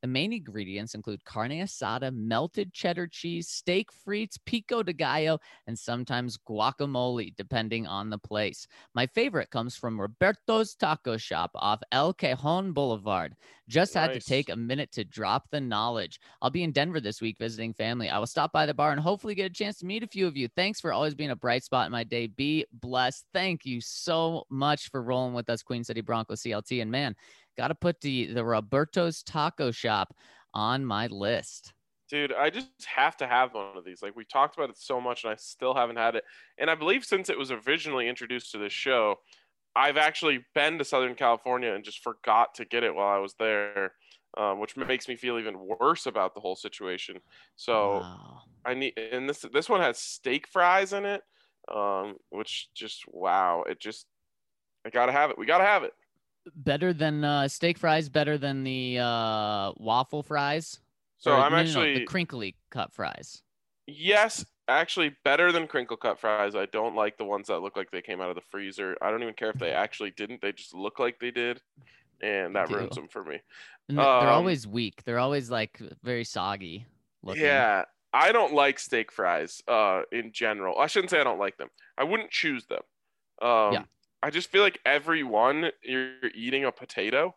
The main ingredients include carne asada, melted cheddar cheese, steak frites, pico de gallo, and sometimes guacamole, depending on the place. My favorite comes from Roberto's Taco Shop off El Cajon Boulevard. Just had to Nice. take a minute to drop the knowledge. I'll be in Denver this week visiting family. I will stop by the bar and hopefully get a chance to meet a few of you. Thanks for always being a bright spot in my day. Be blessed. Thank you so much for rolling with us, Queen City Broncos C L T. And man, got to put the, the Roberto's Taco Shop on my list. Dude, I just have to have one of these. Like, we talked about it so much, and I still haven't had it. And I believe since it was originally introduced to this show, I've actually been to Southern California and just forgot to get it while I was there, um, which makes me feel even worse about the whole situation. So Wow. I need, and this this one has steak fries in it, um, which just wow, it just I gotta have it. We gotta have it. Better than uh, steak fries, better than the uh, waffle fries. So Or, I'm no, no, no, actually the crinkly cut fries. Yes, actually better than crinkle cut fries. I don't like the ones that look like they came out of the freezer. I don't even care if they actually didn't. They just look like they did, and that do. ruins them for me. And th- they're Um, always weak. They're always like very soggy looking. Yeah, I don't like steak fries uh in general. I shouldn't say I don't like them. I wouldn't choose them. Um Yeah. I just feel like every one you're eating a potato,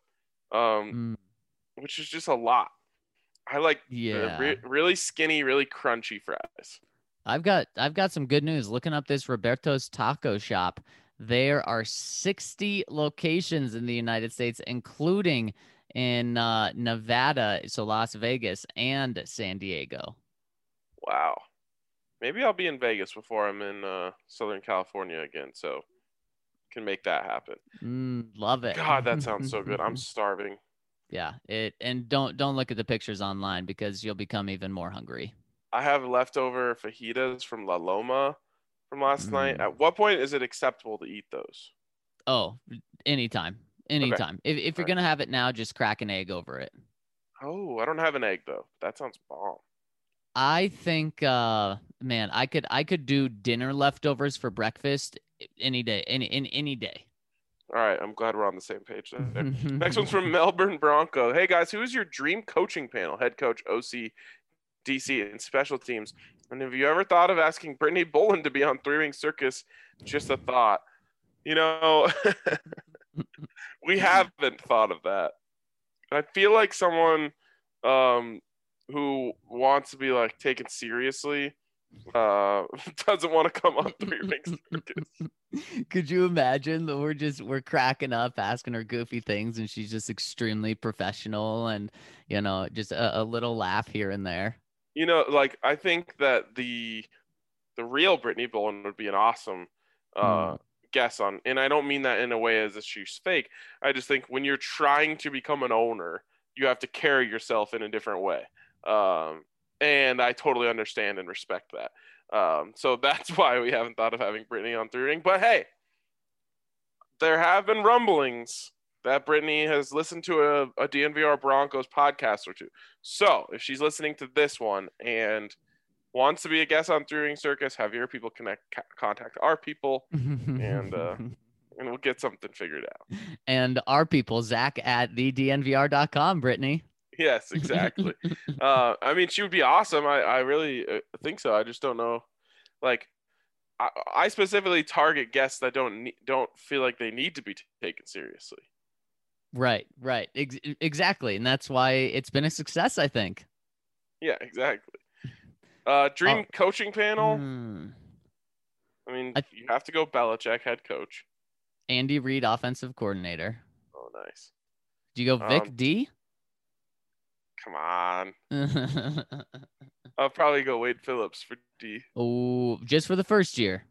um, Mm, which is just a lot. I like the yeah. re- really skinny, really crunchy fries. I've got I've got some good news. Looking up this Roberto's Taco Shop, there are sixty locations in the United States, including in uh, Nevada, so Las Vegas and San Diego. Wow. Maybe I'll be in Vegas before I'm in uh, Southern California again, so can make that happen. Mm, love it. God, that sounds so good. I'm starving. Yeah, it and don't don't look at the pictures online because you'll become even more hungry. I have leftover fajitas from La Loma from last night. Mm. At what point is it acceptable to eat those? Oh, anytime, anytime. If if you're Alright. gonna have it now, just crack an egg over it. Oh, I don't have an egg though. That sounds bomb. I think, uh, man, I could I could do dinner leftovers for breakfast any day, any any any day. All right, I'm glad we're on the same page there. Next one's from Melbourne Bronco. Hey guys, who is your dream coaching panel? Head coach, O C, D C, and special teams. And have you ever thought of asking Brittany Bolin to be on Three Ring Circus? Just a thought. You know, we haven't thought of that. I feel like someone um, who wants to be like taken seriously uh, doesn't want to come on Three Ring Circus. Could you imagine that we're just we're cracking up asking her goofy things and she's just extremely professional and you know just a, a little laugh here and there. You know, like I think that the the real Brittany Bolin would be an awesome uh, Hmm. guest on, and I don't mean that in a way as if she's fake. I just think when you're trying to become an owner, you have to carry yourself in a different way, um, and I totally understand and respect that. Um, so that's why we haven't thought of having Brittany on Three Ring. But hey, there have been rumblings that Brittany has listened to a, a D N V R Broncos podcast or two. So if she's listening to this one and wants to be a guest on Three Ring Circus, have your people connect, ca- contact our people, and uh, and we'll get something figured out. And our people, Zach at the D N V R dot com, Brittany. Yes, exactly. uh, I mean, she would be awesome. I, I really uh, think so. I just don't know. Like, I, I specifically target guests that don't ne- don't feel like they need to be t- taken seriously. Right, right. Ex- exactly. And that's why it's been a success, I think. Yeah, exactly. Uh, dream Oh. coaching panel. Hmm. I mean, I- you have to go Belichick, head coach. Andy Reid, offensive coordinator. Oh, nice. Do you go Vic Um, D? Come on. I'll probably go Wade Phillips for D. Oh, just for the first year.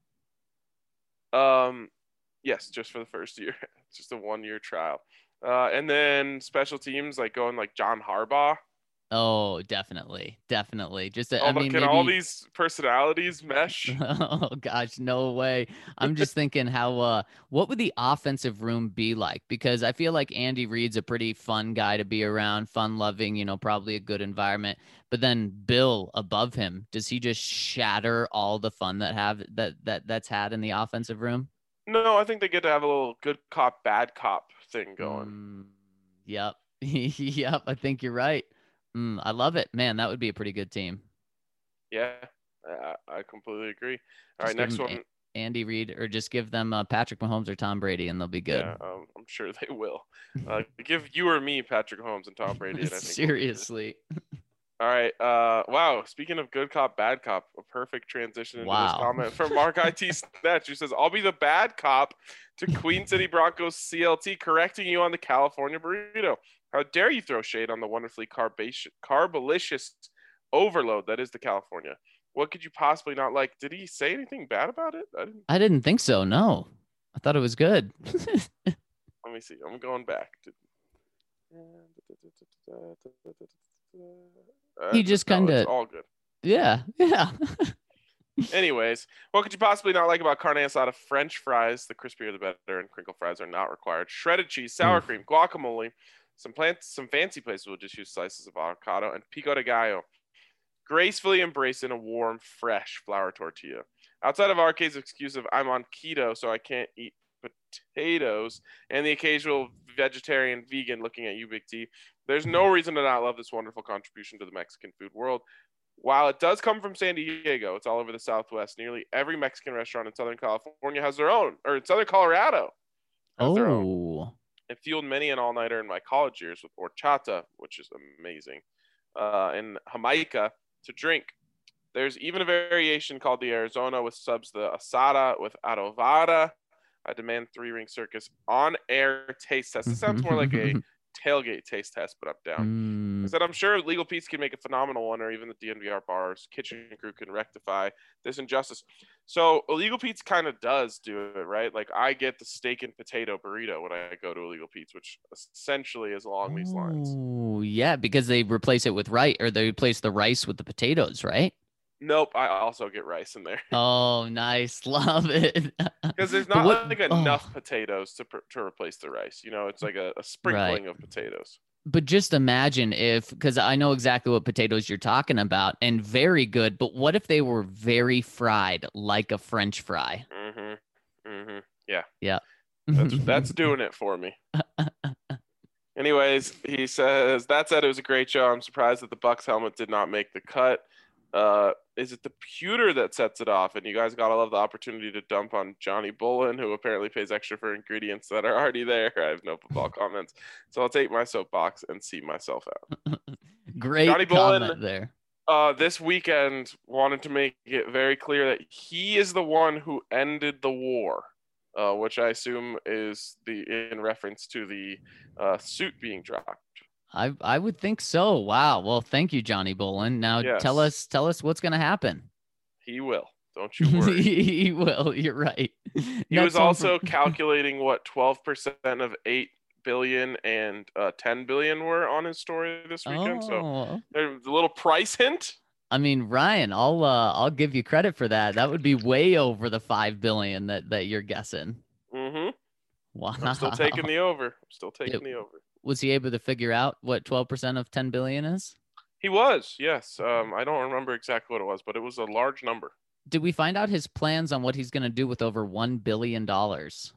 Um, yes, just for the first year. It's just a one-year trial. Uh, and then special teams like going like John Harbaugh. Oh, definitely, definitely. Just, Oh, I but mean, can maybe. all these personalities mesh? Oh gosh, no way. I'm just thinking how uh what would the offensive room be like? Because I feel like Andy Reid's a pretty fun guy to be around, fun loving, you know, probably a good environment. But then Bill above him, does he just shatter all the fun that have that that that's had in the offensive room? No, I think they get to have a little good cop, bad cop thing going. Mm, yep. Yep, I think you're right. Mm, I love it, man. That would be a pretty good team. Yeah, I, I completely agree. All Just right, give next them one. A- Andy Reid, or just give them uh, Patrick Mahomes or Tom Brady, and they'll be good. Yeah, um, I'm sure they will. Uh, give you or me Patrick Mahomes and Tom Brady, and I think we'll be good. Seriously. All right. Uh, wow. Speaking of good cop, bad cop, a perfect transition into this Wow. comment from Mark I T Snatch, who says, "I'll be the bad cop to Queen City Broncos C L T, correcting you on the California burrito. How dare you throw shade on the wonderfully carbaceous, carbolicious overload that is the California? What could you possibly not like? Did he say anything bad about it? I didn't. I didn't think so. No, I thought it was good. Let me see. I'm going back. To... Uh, He just no, kind it's of, all good. yeah, yeah. Anyways, what could you possibly not like about carne asada? French fries, the crispier the better, and crinkle fries are not required. Shredded cheese, sour Oof. cream, guacamole. Some plants, some fancy places will just use slices of avocado and pico de gallo. Gracefully embraced in a warm, fresh flour tortilla. Outside of our case excuse of I'm on keto, so I can't eat potatoes, and the occasional vegetarian vegan looking at you, Big T, there's no reason to not love this wonderful contribution to the Mexican food world. While it does come from San Diego, it's all over the Southwest. Nearly every Mexican restaurant in Southern California has their own, or in Southern Colorado has their own. Oh, It fueled many an all-nighter in my college years with horchata, which is amazing, uh, and Jamaica to drink. There's even a variation called the Arizona with subs the asada with adobada. I demand three ring circus on air taste test. This sounds more like a tailgate taste test, but I'm down. Mm. I said I'm sure Legal Pete's can make a phenomenal one, or even the D N V R bars kitchen crew can rectify this injustice. So Illegal Pete's kind of does do it, right? Like I get the steak and potato burrito when I go to Illegal Pete's, which essentially is along these lines. Oh, yeah, because they replace it with rice, or they replace the rice with the potatoes, right? Nope, I also get rice in there Oh, nice. Love it. because there's But not what- like enough oh. potatoes to pr- to replace the rice. You know, it's like a, a sprinkling of potatoes. But just imagine if, because I know exactly what potatoes you're talking about, and very good. But what if they were very fried, like a French fry? Mm-hmm. Mm-hmm. Yeah. Yeah. That's that's doing it for me. Anyways, he says that said, it was a great show. I'm surprised that the Bucks helmet did not make the cut. Uh, is it the pewter that sets it off? And you guys gotta love the opportunity to dump on Johnny Bullen, who apparently pays extra for ingredients that are already there. I have no football comments, so I'll take my soapbox and see myself out. Great Johnny comment Bullen, there. Uh, this weekend wanted to make it very clear that he is the one who ended the war, uh, which I assume is the in reference to the uh, suit being dropped. I I would think so. Wow. Well, thank you, Johnny Bolin. Now Yes. tell us tell us what's gonna happen. He will. Don't you worry. He will. You're right. He Next was one also from- calculating what twelve percent of eight billion and uh, ten billion were on his story this weekend. So Oh. there's a little price hint. I mean, Ryan, I'll uh, I'll give you credit for that. That would be way over the five billion that that you're guessing. Mm-hmm. Wow. I'm still taking the over. I'm still taking It- the over. Was he able to figure out what twelve percent of ten billion is? He was, yes. Um, I don't remember exactly what it was, but it was a large number. Did we find out his plans on what he's going to do with over one billion dollars?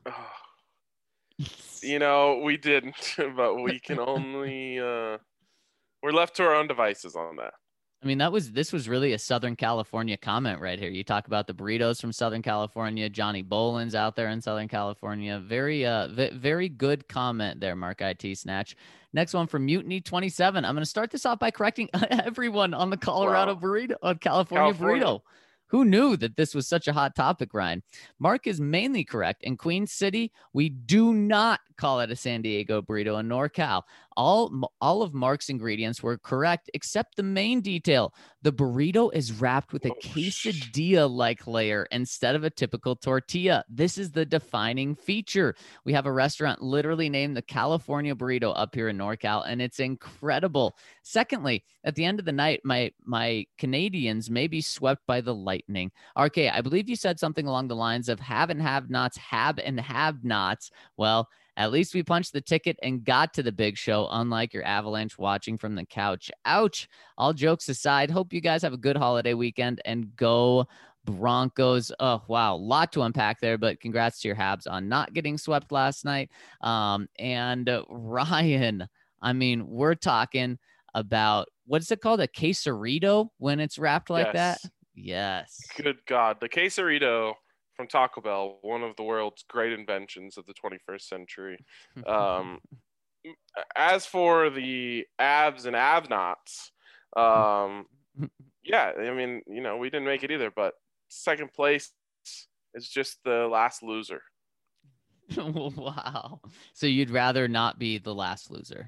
You know, we didn't, but we can only uh, we're left to our own devices on that. I mean, that was this was really a Southern California comment right here. You talk about the burritos from Southern California. Johnny Bolin's out there in Southern California. Very, uh, v- very good comment there, Mark I T Snatch. Next one from Mutiny twenty-seven. I'm going to start this off by correcting everyone on the Colorado Wow. burrito, uh, California, California. burrito. Who knew that this was such a hot topic, Ryan? Mark is mainly correct. In Queen City, we do not call it a San Diego burrito. In NorCal, all, all of Mark's ingredients were correct except the main detail. The burrito is wrapped with a Oh, sh- quesadilla-like layer instead of a typical tortilla. This is the defining feature. We have a restaurant literally named the California Burrito up here in NorCal, and it's incredible. Secondly, at the end of the night, my my Canadians may be swept by the lightning. R K, I believe you said something along the lines of have and have nots, have and have nots. Well, at least we punched the ticket and got to the big show, unlike your Avalanche watching from the couch. Ouch. All jokes aside, hope you guys have a good holiday weekend and go Broncos. Oh, wow. A lot to unpack there, but congrats to your Habs on not getting swept last night. Um, and uh, Ryan, I mean, we're talking about what's it called? A quesarito when it's wrapped like that? Yes. Yes. Good God. The quesarito from Taco Bell, one of the world's great inventions of the twenty-first century. Um, as for the abs and have-nots, um, yeah, I mean, you know, we didn't make it either, but second place is just the last loser. Wow. So you'd rather not be the last loser?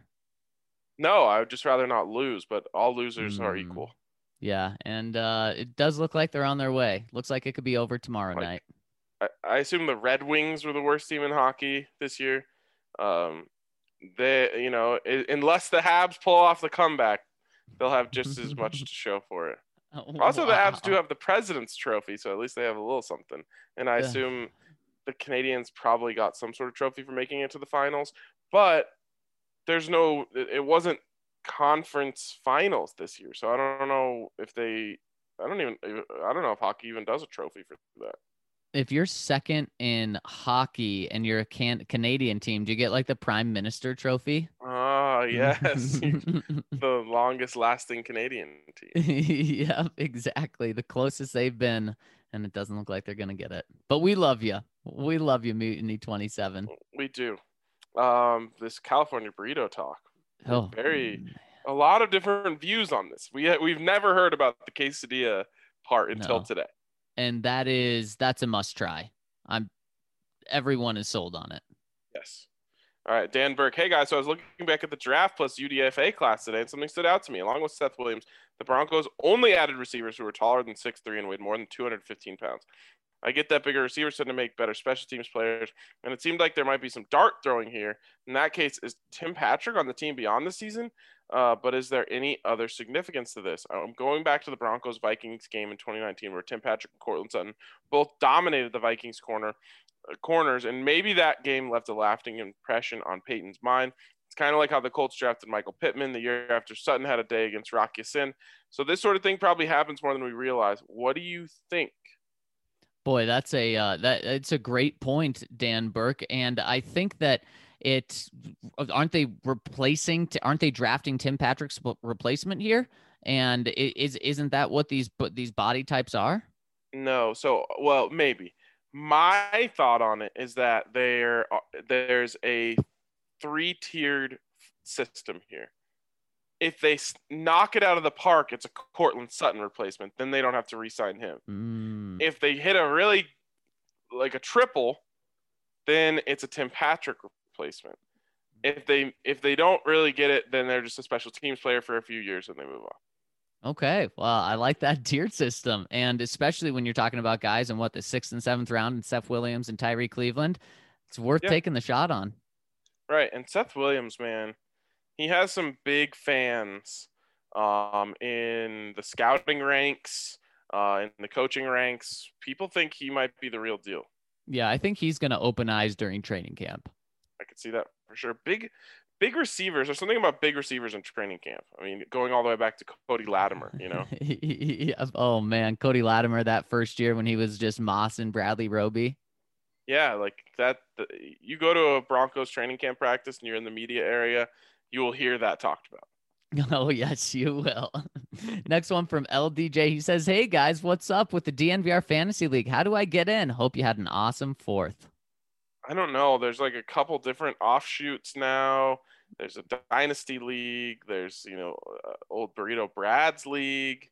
No, I would just rather not lose, but all losers are Mm, equal. yeah, and uh, it does look like they're on their way. Looks like it could be over tomorrow Like, night. I, I assume the Red Wings were the worst team in hockey this year. Um, they, you know, I- unless the Habs pull off the comeback, they'll have just as much to show for it. Also, the Habs do Wow. have the President's Trophy, so at least they have a little something. And I Yeah. assume the Canadians probably got some sort of trophy for making it to the finals, but there's no, it wasn't conference finals this year, so I don't know if they, I don't even, I don't know if hockey even does a trophy for that. If you're second in hockey and you're a can- Canadian team, do you get like the Prime Minister trophy? Ah, yes, the longest lasting Canadian team. Yep, exactly. The closest they've been, and it doesn't look like they're gonna get it. But we love you. We love you, Mutiny twenty-seven. We do. Um, this California burrito talk. Oh, Very, mm, a lot of different views on this. We we've never heard about the quesadilla part until no. today. And that is that's a must try. I'm everyone is sold on it. Yes. All right, Dan Burke. Hey guys, so I was looking back at the draft plus U D F A class today, and something stood out to me. Along with Seth Williams, the Broncos only added receivers who were taller than six three and weighed more than two hundred fifteen pounds. I get that bigger receivers tend to make better special teams players, and it seemed like there might be some dart throwing here. In that case, is Tim Patrick on the team beyond the season? Uh, but is there any other significance to this? I'm going back to the Broncos-Vikings game in twenty nineteen where Tim Patrick and Cortland Sutton both dominated the Vikings corner uh, corners, and maybe that game left a lasting impression on Peyton's mind. It's kind of like how the Colts drafted Michael Pittman the year after Sutton had a day against Rock Ya-Sin. So this sort of thing probably happens more than we realize. What do you think? Boy, that's a uh, that it's a great point, Dan Burke, and I think that it aren't they replacing aren't they drafting Tim Patrick's replacement here, and it, is isn't that what these these body types are? No, so well maybe. My thought on it is that there there's a three-tiered system here. If they knock it out of the park, it's a Cortland Sutton replacement. Then they don't have to re-sign him. Mm. If they hit a really, like a triple, then it's a Tim Patrick replacement. If they if they don't really get it, then they're just a special teams player for a few years and they move on. Okay, well, I like that tiered system, and especially when you're talking about guys in what the sixth and seventh round, and Seth Williams and Tyree Cleveland, it's worth Yeah. taking the shot on. Right, and Seth Williams, man, he has some big fans um, in the scouting ranks, uh, in the coaching ranks. People think he might be the real deal. Yeah, I think he's going to open eyes during training camp. I could see that for sure. Big, big receivers. There's something about big receivers in training camp. I mean, going all the way back to Cody Latimer, you know? Yeah. Oh, man. Cody Latimer that first year when he was just mossing Bradley Roby. Yeah, like that. The, you go to a Broncos training camp practice and you're in the media area, you will hear that talked about. Oh, yes, you will. Next one from L D J. He says, hey, guys, what's up with the D N V R Fantasy League? How do I get in? Hope you had an awesome fourth. I don't know. There's like a couple different offshoots now. There's a Dynasty League. There's, you know, uh, old Burrito Brad's League.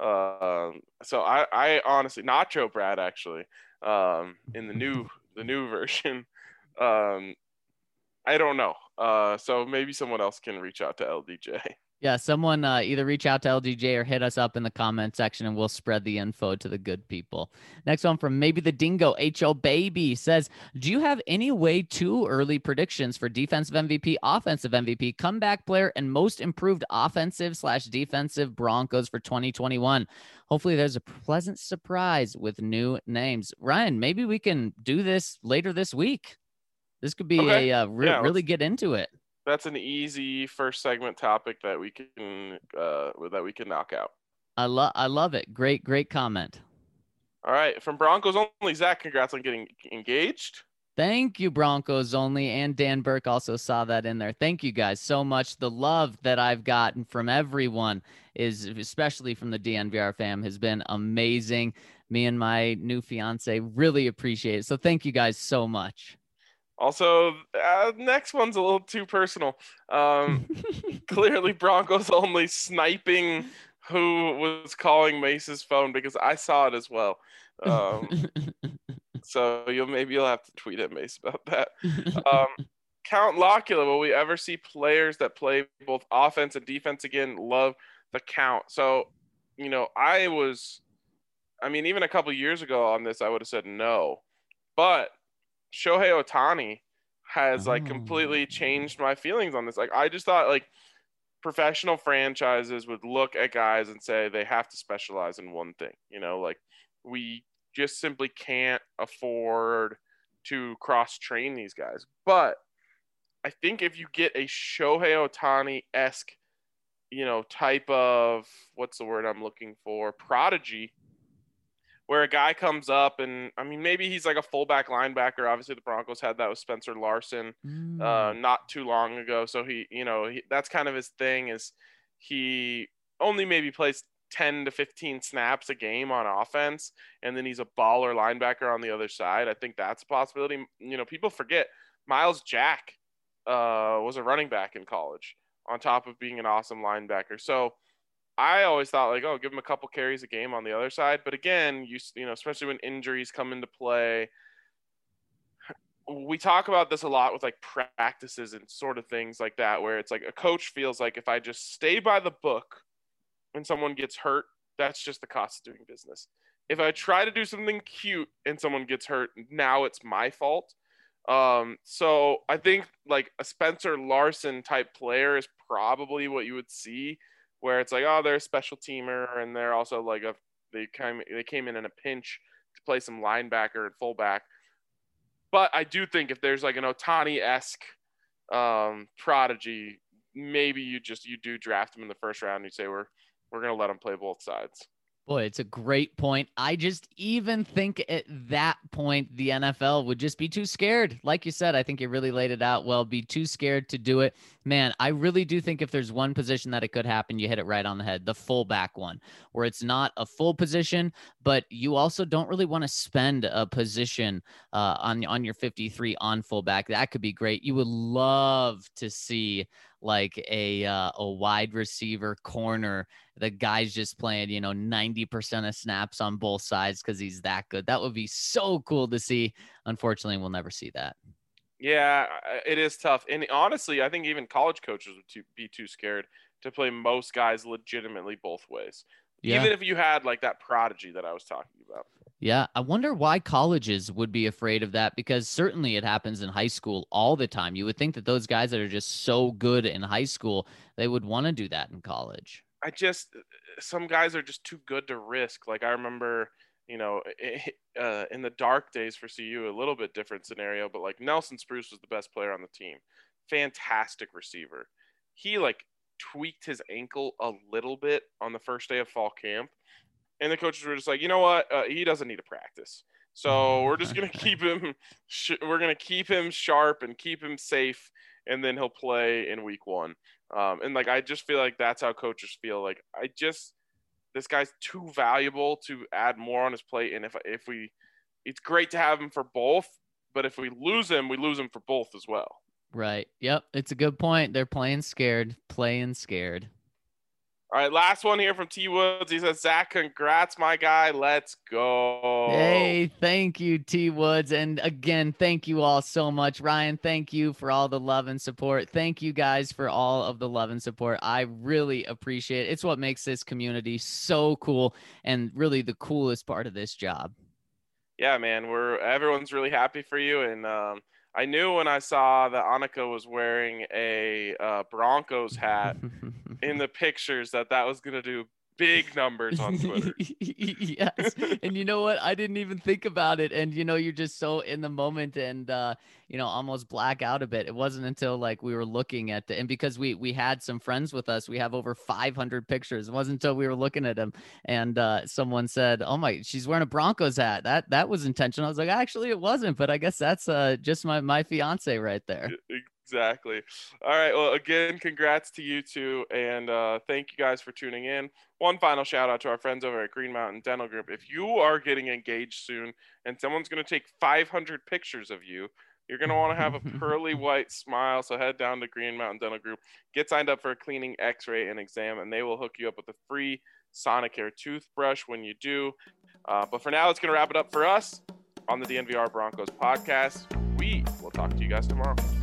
Um, so I, I honestly, Nacho Brad actually, um, in the new the new version. Um, I don't know. Uh, so maybe someone else can reach out to L D J. Yeah, someone uh, either reach out to L D J or hit us up in the comment section and we'll spread the info to the good people. Next one from Maybe the Dingo, H O Baby says, do you have any way too early predictions for defensive M V P, offensive M V P, comeback player, and most improved offensive slash defensive Broncos for twenty twenty-one? Hopefully there's a pleasant surprise with new names. Ryan, maybe we can do this later this week. This could be Okay. a uh, re- Yeah, really get into it. That's an easy first segment topic that we can uh, that we can knock out. I love I love it. Great, great comment. All right, from Broncos only, Zach, congrats on getting engaged. Thank you, Broncos only. And Dan Burke also saw that in there. Thank you guys so much. The love that I've gotten from everyone is, especially from the D N V R fam, has been amazing. Me and my new fiance really appreciate it. So thank you guys so much. Also, uh, next one's a little too personal. Um, clearly, Broncos only sniping who was calling Mace's phone because I saw it as well. Um, so you'll maybe you'll have to tweet at Mace about that. Um, Count Locula, will we ever see players that play both offense and defense again? Love the count. So, you know, I was, I mean, even a couple years ago on this, I would have said no. But Shohei Ohtani has like completely changed my feelings on this. Like, I just thought like professional franchises would look at guys and say they have to specialize in one thing. You know, like we just simply can't afford to cross train these guys. But I think if you get a Shohei Ohtani-esque, you know, type of, what's the word I'm looking for, prodigy, where a guy comes up and, I mean, maybe he's like a fullback linebacker. Obviously, the Broncos had that with Spencer Larson Mm. uh, not too long ago. So he, you know, he, that's kind of his thing is he only maybe plays ten to fifteen snaps a game on offense, and then he's a baller linebacker on the other side. I think that's a possibility. You know, people forget Miles Jack uh, was a running back in college on top of being an awesome linebacker. So I always thought like, oh, give him a couple carries a game on the other side. But again, you you know, especially when injuries come into play, we talk about this a lot with like practices and sort of things like that, where it's like a coach feels like if I just stay by the book and someone gets hurt, that's just the cost of doing business. If I try to do something cute and someone gets hurt, now it's my fault. Um, so I think like a Spencer Larson type player is probably what you would see, where it's like, oh, they're a special teamer and they're also like a they came they came in in a pinch to play some linebacker and fullback. But I do think if there's like an Ohtani-esque um, prodigy, maybe you just you do draft him in the first round. And you say we're we're gonna let him play both sides. Boy, it's a great point. I just even think at that point, the N F L would just be too scared. Like you said, I think you really laid it out well, be too scared to do it. Man, I really do think if there's one position that it could happen, you hit it right on the head, the fullback one, where it's not a full position, but you also don't really want to spend a position uh, on, on your fifty-three on fullback. That could be great. You would love to see like a uh, a wide receiver corner. The guy's just playing, you know, ninety percent of snaps on both sides because he's that good. That would be so cool to see. Unfortunately, we'll never see that. Yeah, it is tough. And honestly, I think even college coaches would too, be too scared to play most guys legitimately both ways. Yeah. Even if you had like that prodigy that I was talking about. Yeah, I wonder why colleges would be afraid of that, because certainly it happens in high school all the time. You would think that those guys that are just so good in high school, they would want to do that in college. I just, some guys are just too good to risk. Like I remember, you know, uh, in the dark days for C U, a little bit different scenario, but like Nelson Spruce was the best player on the team. Fantastic receiver. He like tweaked his ankle a little bit on the first day of fall camp. And the coaches were just like, you know what? Uh, he doesn't need to practice. So we're just going to keep him, sh- we're going to keep him sharp and keep him safe. And then he'll play in week one. Um, and like, I just feel like that's how coaches feel. Like I just, this guy's too valuable to add more on his plate. And if, if we, it's great to have him for both, but if we lose him, we lose him for both as well. Right. Yep. It's a good point. They're playing scared, playing scared. All right, last one here from T Woods. He says, Zach, congrats, my guy. Let's go. Hey, thank you, T Woods. And again, thank you all so much. Ryan, thank you for all the love and support. Thank you guys for all of the love and support. I really appreciate it. It's what makes this community so cool and really the coolest part of this job. Yeah, man, we're everyone's really happy for you. And um, I knew when I saw that Annika was wearing a uh, Broncos hat in the pictures that that was going to do big numbers on Twitter. Yes. And you know what? I didn't even think about it. And, you know, you're just so in the moment and, uh, you know, almost black out a bit. It wasn't until like we were looking at the, and because we, we had some friends with us, we have over five hundred pictures. It wasn't until we were looking at them and uh, someone said, oh my, she's wearing a Broncos hat. That, that was intentional. I was like, actually it wasn't, but I guess that's uh, just my, my fiance right there. Exactly. All right. Well, again, congrats to you two. And uh, thank you guys for tuning in. One final shout out to our friends over at Green Mountain Dental Group. If you are getting engaged soon and someone's going to take five hundred pictures of you, you're going to want to have a pearly white smile. So head down to Green Mountain Dental Group, get signed up for a cleaning, x-ray, and exam, and they will hook you up with a free Sonicare toothbrush when you do. Uh, but for now, it's going to wrap it up for us on the D N V R Broncos podcast. We will talk to you guys tomorrow.